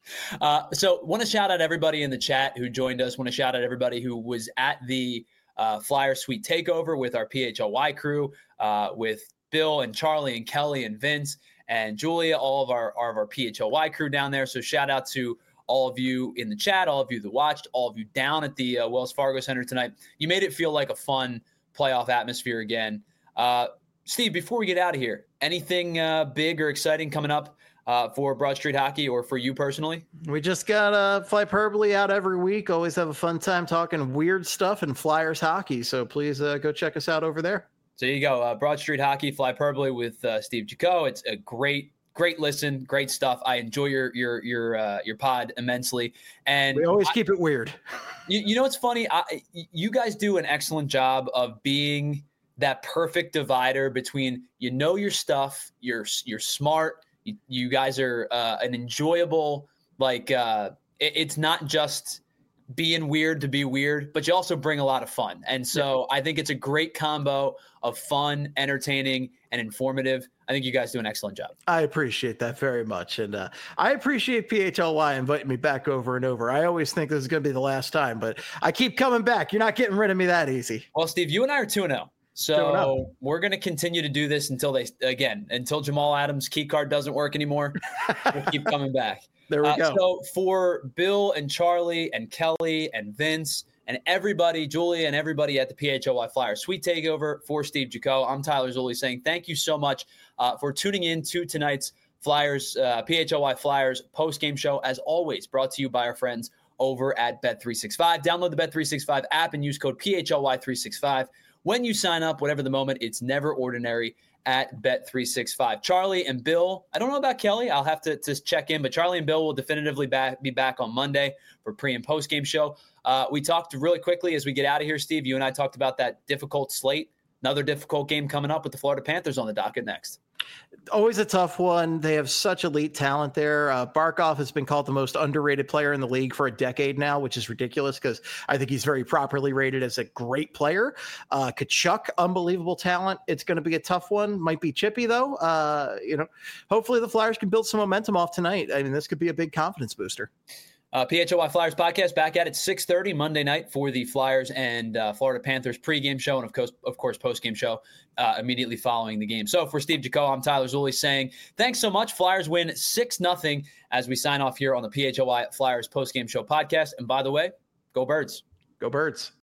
So want to shout out everybody in the chat who joined us. Want to shout out everybody who was at the Flyer Suite Takeover with our PHLY crew, with Bill and Charlie and Kelly and Vince and Julia, all of our PHLY crew down there. So shout out to all of you in the chat, all of you that watched, all of you down at the Wells Fargo Center tonight. You made it feel like a fun playoff atmosphere again. Steve, before we get out of here, anything big or exciting coming up for Broad Street Hockey or for you personally? We just got Flyperbole out every week. Always have a fun time talking weird stuff in Flyers hockey. So please go check us out over there. So you go, Broad Street Hockey, Flyperbole with Steve Jaco. It's a great listen, great stuff. I enjoy your pod immensely, and we always keep it weird. You know what's funny? You guys do an excellent job of being that perfect divider between your stuff, you're smart. You guys are an enjoyable it's not just being weird to be weird, but you also bring a lot of fun. And so I think it's a great combo of fun, entertaining, and informative. I think you guys do an excellent job. I appreciate that very much. And I appreciate PHLY inviting me back over and over. I always think this is going to be the last time, but I keep coming back. You're not getting rid of me that easy. Well, Steve, you and I are 2-0. So we're going to continue to do this until Jamal Adams' key card doesn't work anymore. We'll keep coming back. There we go. So for Bill and Charlie and Kelly and Vince and everybody, Julia and everybody at the PHLY Flyers Suite Takeover, for Steve Jaco, I'm Tyler Zulli saying thank you so much for tuning in to tonight's Flyers PHLY Flyers post-game show. As always, brought to you by our friends over at Bet365. Download the Bet365 app and use code PHLY365. When you sign up, whatever the moment, it's never ordinary at Bet365. Charlie and Bill, I don't know about Kelly. I'll have to check in, but Charlie and Bill will definitively be back on Monday for pre- and post-game show. We talked really quickly as we get out of here, Steve. You and I talked about that difficult slate. Another difficult game coming up with the Florida Panthers on the docket next. Always a tough one. They have such elite talent there. Barkov has been called the most underrated player in the league for a decade now, which is ridiculous because I think he's very properly rated as a great player. Tkachuk, unbelievable talent. It's going to be a tough one. Might be chippy though. Hopefully the Flyers can build some momentum off tonight. I mean, this could be a big confidence booster. PHLY Flyers podcast back at it 6:30 Monday night for the Flyers and Florida Panthers pregame show and of course postgame show immediately following the game. So for Steve Jaco, I'm Tyler Zulli saying thanks so much. Flyers win 6-0 as we sign off here on the PHLY Flyers postgame show podcast. And by the way, go Birds. Go Birds.